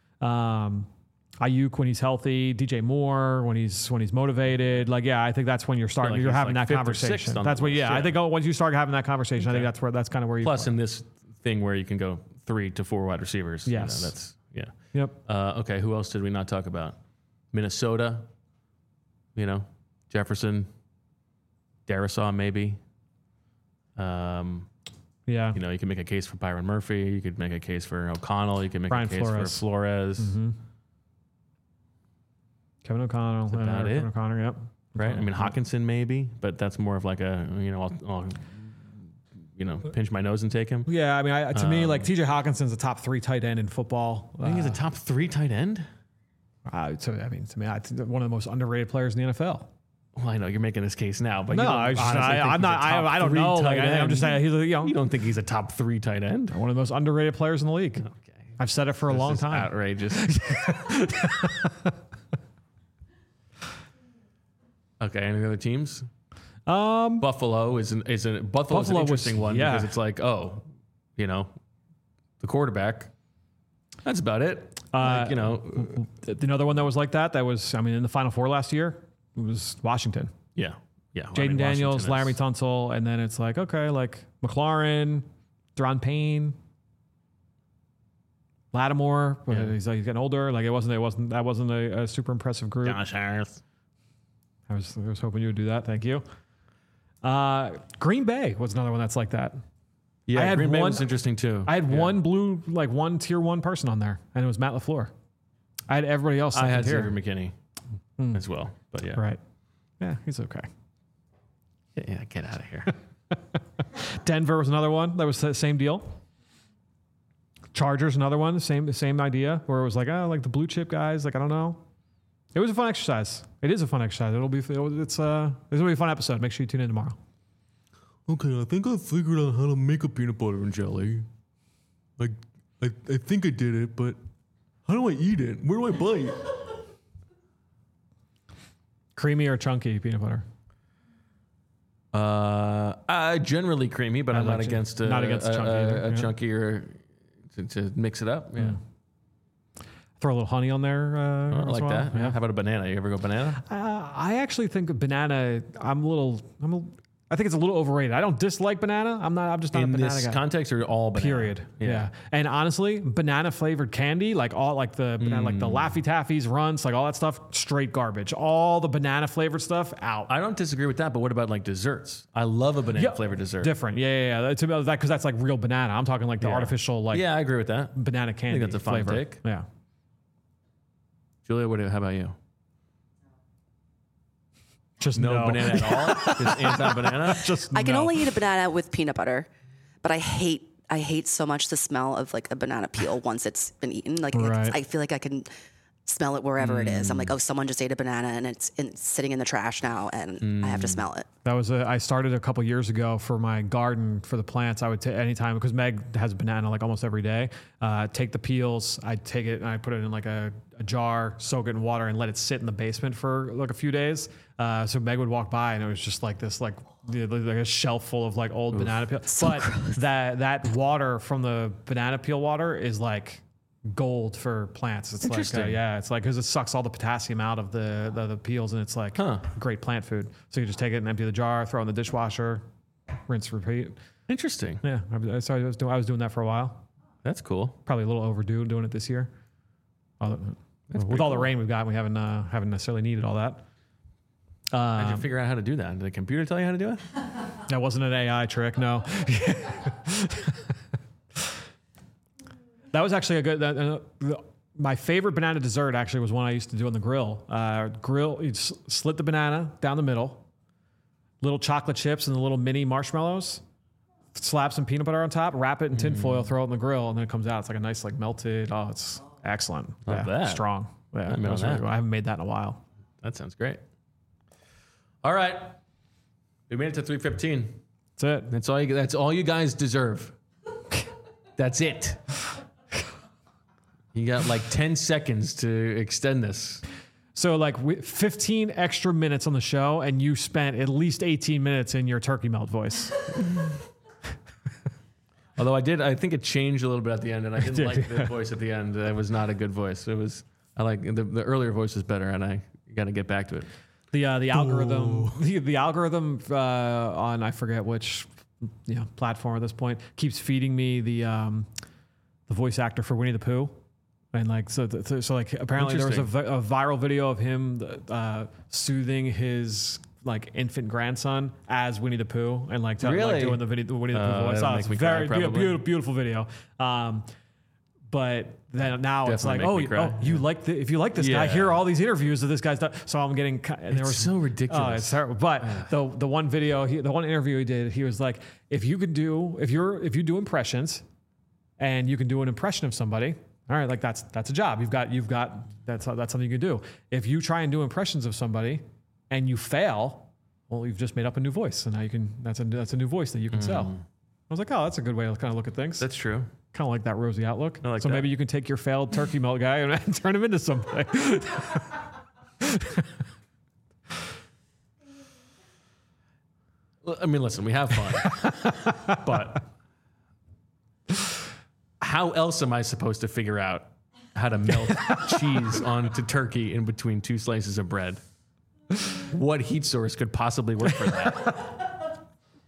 Ayuk when he's healthy, DJ Moore when he's motivated. Like, yeah, I think that's when you're starting. like you're he's having like that 5th or conversation. 6th on That's the what. list, Yeah, I think once you start having that conversation, I think that's kind of where you. Plus, in this thing where you can go 3 to 4 wide receivers. Yes. That's Yep. Okay, who else did we not talk about? Minnesota. Jefferson. Darisaw maybe. Yeah. You can make a case for Byron Murphy. You could make a case for O'Connell. You could make Brian a case for Flores. Mm-hmm. Kevin O'Connell. That's about it. Kevin O'Connor, yep. Right? I mean, Hawkinson maybe, but that's more of like a, I'll pinch my nose and take him. Yeah, I mean, to me, like TJ Hawkinson's a top 3 tight end in football. I think he's a top 3 tight end. To me, I think one of the most underrated players in the NFL. Well, I know you're making this case now, but No, you don't I'm honestly think he's a top I don't 3 know. tight Like, I'm end. just saying, You don't think he's a top 3 tight end? one of the most underrated players in the league. Okay. I've said it for a long This is time. outrageous. Okay, any other teams? Buffalo is an interesting one because it's like, the quarterback. That's about it. Another one that was like that was, in the Final Four last year, it was Washington. Yeah. Jaden Daniels, Laramie Tunsil, and then it's like, okay, like McLaurin, Deron Payne, Lattimore, but he's getting older. Like that wasn't a super impressive group. Josh Harris. I was hoping you would do that. Thank you. Green Bay was another one that's like that. Yeah, I had Green Bay one- was interesting too. I had one tier 1 person on there, and it was Matt LaFleur. I had everybody else. I had tier. Xavier McKinney as well, but yeah. Right. Yeah, he's okay. Yeah, get out of here. Denver was another one that was the same deal. Chargers, another one, the same idea, where it was like, like the blue chip guys, like I don't know. It was a fun exercise. It is a fun exercise. This will be a fun episode. Make sure you tune in tomorrow. Okay, I think I figured out how to make a peanut butter and jelly. Like, I think I did it, but how do I eat it? Where do I bite? Creamy or chunky peanut butter? Generally creamy, but I'm not against chunky either, a yeah. chunkier to mix it up. Yeah, Throw a little honey on there. I like well. that. Yeah. How about a banana? You ever go banana? I actually think a banana. I think it's a little overrated. I don't dislike banana. I'm just not In a banana this guy. context, or all banana? Period. Yeah. And honestly, banana flavored candy, like all like the banana, like the Laffy Taffies, Runts, like all that stuff, straight garbage. All the banana flavored stuff out. I don't disagree with that, but what about like desserts? I love a banana flavored dessert. Different. Yeah. To me, that because that's like real banana. I'm talking like the artificial like Yeah, I agree with that. banana candy. that's a fine flavor. take. Yeah. Julia, how about you? Just No banana at all? Just anti-banana? I can only eat a banana with peanut butter, but I hate so much the smell of like a banana peel once it's been eaten. Like Right. I feel like I can smell it wherever it is. I'm like, oh, someone just ate a banana and it's sitting in the trash now, and I have to smell it. That was I started a couple years ago for my garden for the plants. I would take anytime, because Meg has a banana like almost every day. Take the peels, I take it and I put it in like a jar, soak it in water, and let it sit in the basement for like a few days. So Meg would walk by and it was just like this like a shelf full of like old banana peel. So but gross. that water from the banana peel water is like gold for plants. It's Interesting. like it's like because it sucks all the potassium out of the peels, and it's like great plant food. So you just take it and empty the jar, throw it in the dishwasher, rinse, repeat. Interesting. Yeah, so I was doing that for a while. That's cool. Probably a little overdue doing it this year. With all the rain we've got, we haven't necessarily needed all that. How'd you figure out how to do that? Did the computer tell you how to do it? That wasn't an AI trick, no. That was actually a good. My favorite banana dessert actually was one I used to do on the grill. You'd slit the banana down the middle, little chocolate chips and the little mini marshmallows. Slap some peanut butter on top, wrap it in tin foil, throw it in the grill, and then it comes out. It's like a nice like melted. Oh, it's excellent. Love that. Strong. Yeah, Remember was really that. good. I haven't made that in a while. That sounds great. All right. We made it to 3:15. That's it. That's all you guys deserve. That's it. You got like 10 seconds to extend this. So like 15 extra minutes on the show, and you spent at least 18 minutes in your turkey melt voice. Although I think it changed a little bit at the end, and I didn't like the voice at the end. It was not a good voice. I like the earlier voice was better, and I got to get back to it. The algorithm, the algorithm on I forget which platform at this point keeps feeding me the voice actor for Winnie the Pooh, and like so like apparently there was a viral video of him soothing his like infant grandson as Winnie the Pooh, and like doing the Winnie the Pooh voice. that'll Oh, make it's me cry, very probably. beautiful video. But then now it's like, Definitely make me cry. if you like this guy, Yeah. here are all these interviews of this guy's done. So I'm getting, and there was so ridiculous. Oh, it's terrible. But the one video, the one interview he did, he was like, if you do impressions, and you can do an impression of somebody, all right, like that's a job. That's something you can do. If you try and do impressions of somebody, and you fail, well, you've just made up a new voice, and now you can. That's a new voice that you can sell. I was like, oh, that's a good way to kind of look at things. That's true. Kind of like that rosy outlook. I like so that. maybe you can take your failed turkey melt guy and turn him into something. I mean, listen, we have fun, but how else am I supposed to figure out how to melt cheese onto turkey in between two slices of bread? What heat source could possibly work for that?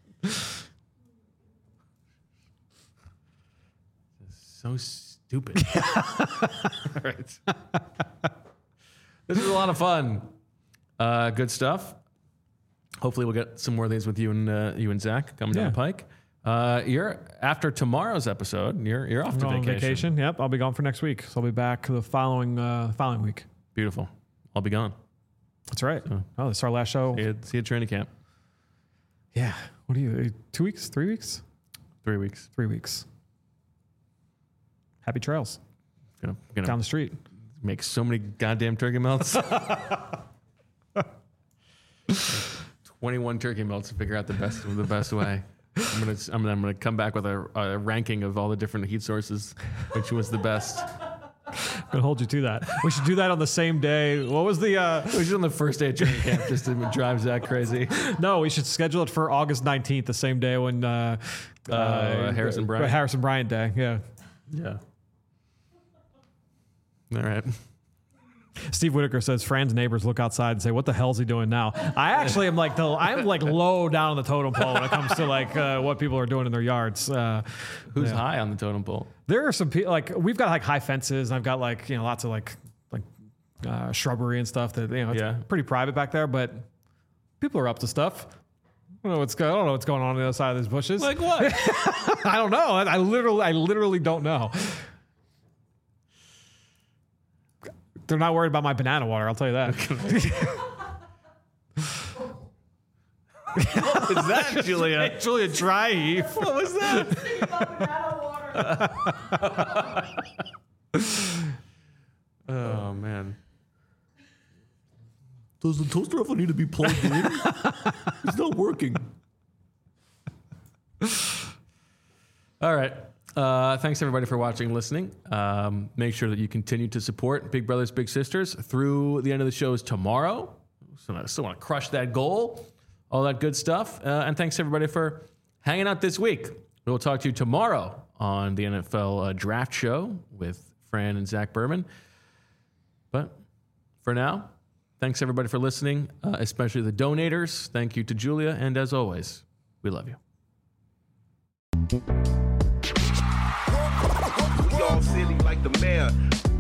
So stupid. Right. This is a lot of fun. Good stuff. Hopefully we'll get some more of these with you and Zach coming down the pike. You're after tomorrow's episode. You're off to On vacation. Yep, I'll be gone for next week. So I'll be back the following week. Beautiful. I'll be gone. That's right. Oh, this is our last show. See you at training camp. Yeah. What are you? 2 weeks? 3 weeks? 3 weeks. 3 weeks. Happy trails Gonna down the street. make so many goddamn turkey melts. 21 turkey melts to figure out the best way. I'm gonna come back with a ranking of all the different heat sources, which was the best. I'm gonna hold you to that. We should do that on the same day. What was the? We should on the first day of training camp just to drive Zach crazy. No, we should schedule it for August 19th, the same day when Harrison Bryant. Harrison Bryant Day. Yeah. Yeah. All right. Steve Whitaker says Fran's neighbors look outside and say, "What the hell's he doing now?" I actually am like I'm like low down on the totem pole when it comes to like what people are doing in their yards. Who's high on the totem pole? There are some people like we've got like high fences, and I've got like lots of like shrubbery and stuff that it's pretty private back there, but people are up to stuff. I don't know what's going on the other side of these bushes. Like what? I don't know. I literally don't know. They're not worried about my banana water. I'll tell you that. Is that Julia? Actually, a dry heave. What was that? Oh man. Does the toaster oven need to be plugged in? It's not working. All right. Thanks, everybody, for watching and listening. Make sure that you continue to support Big Brothers Big Sisters through the end of the shows tomorrow. So I still want to crush that goal, all that good stuff. And thanks, everybody, for hanging out this week. We'll talk to you tomorrow on the NFL Draft Show with Fran and Zach Berman. But for now, thanks, everybody, for listening, especially the donators. Thank you to Julia. And as always, we love you. We all silly like the mayor.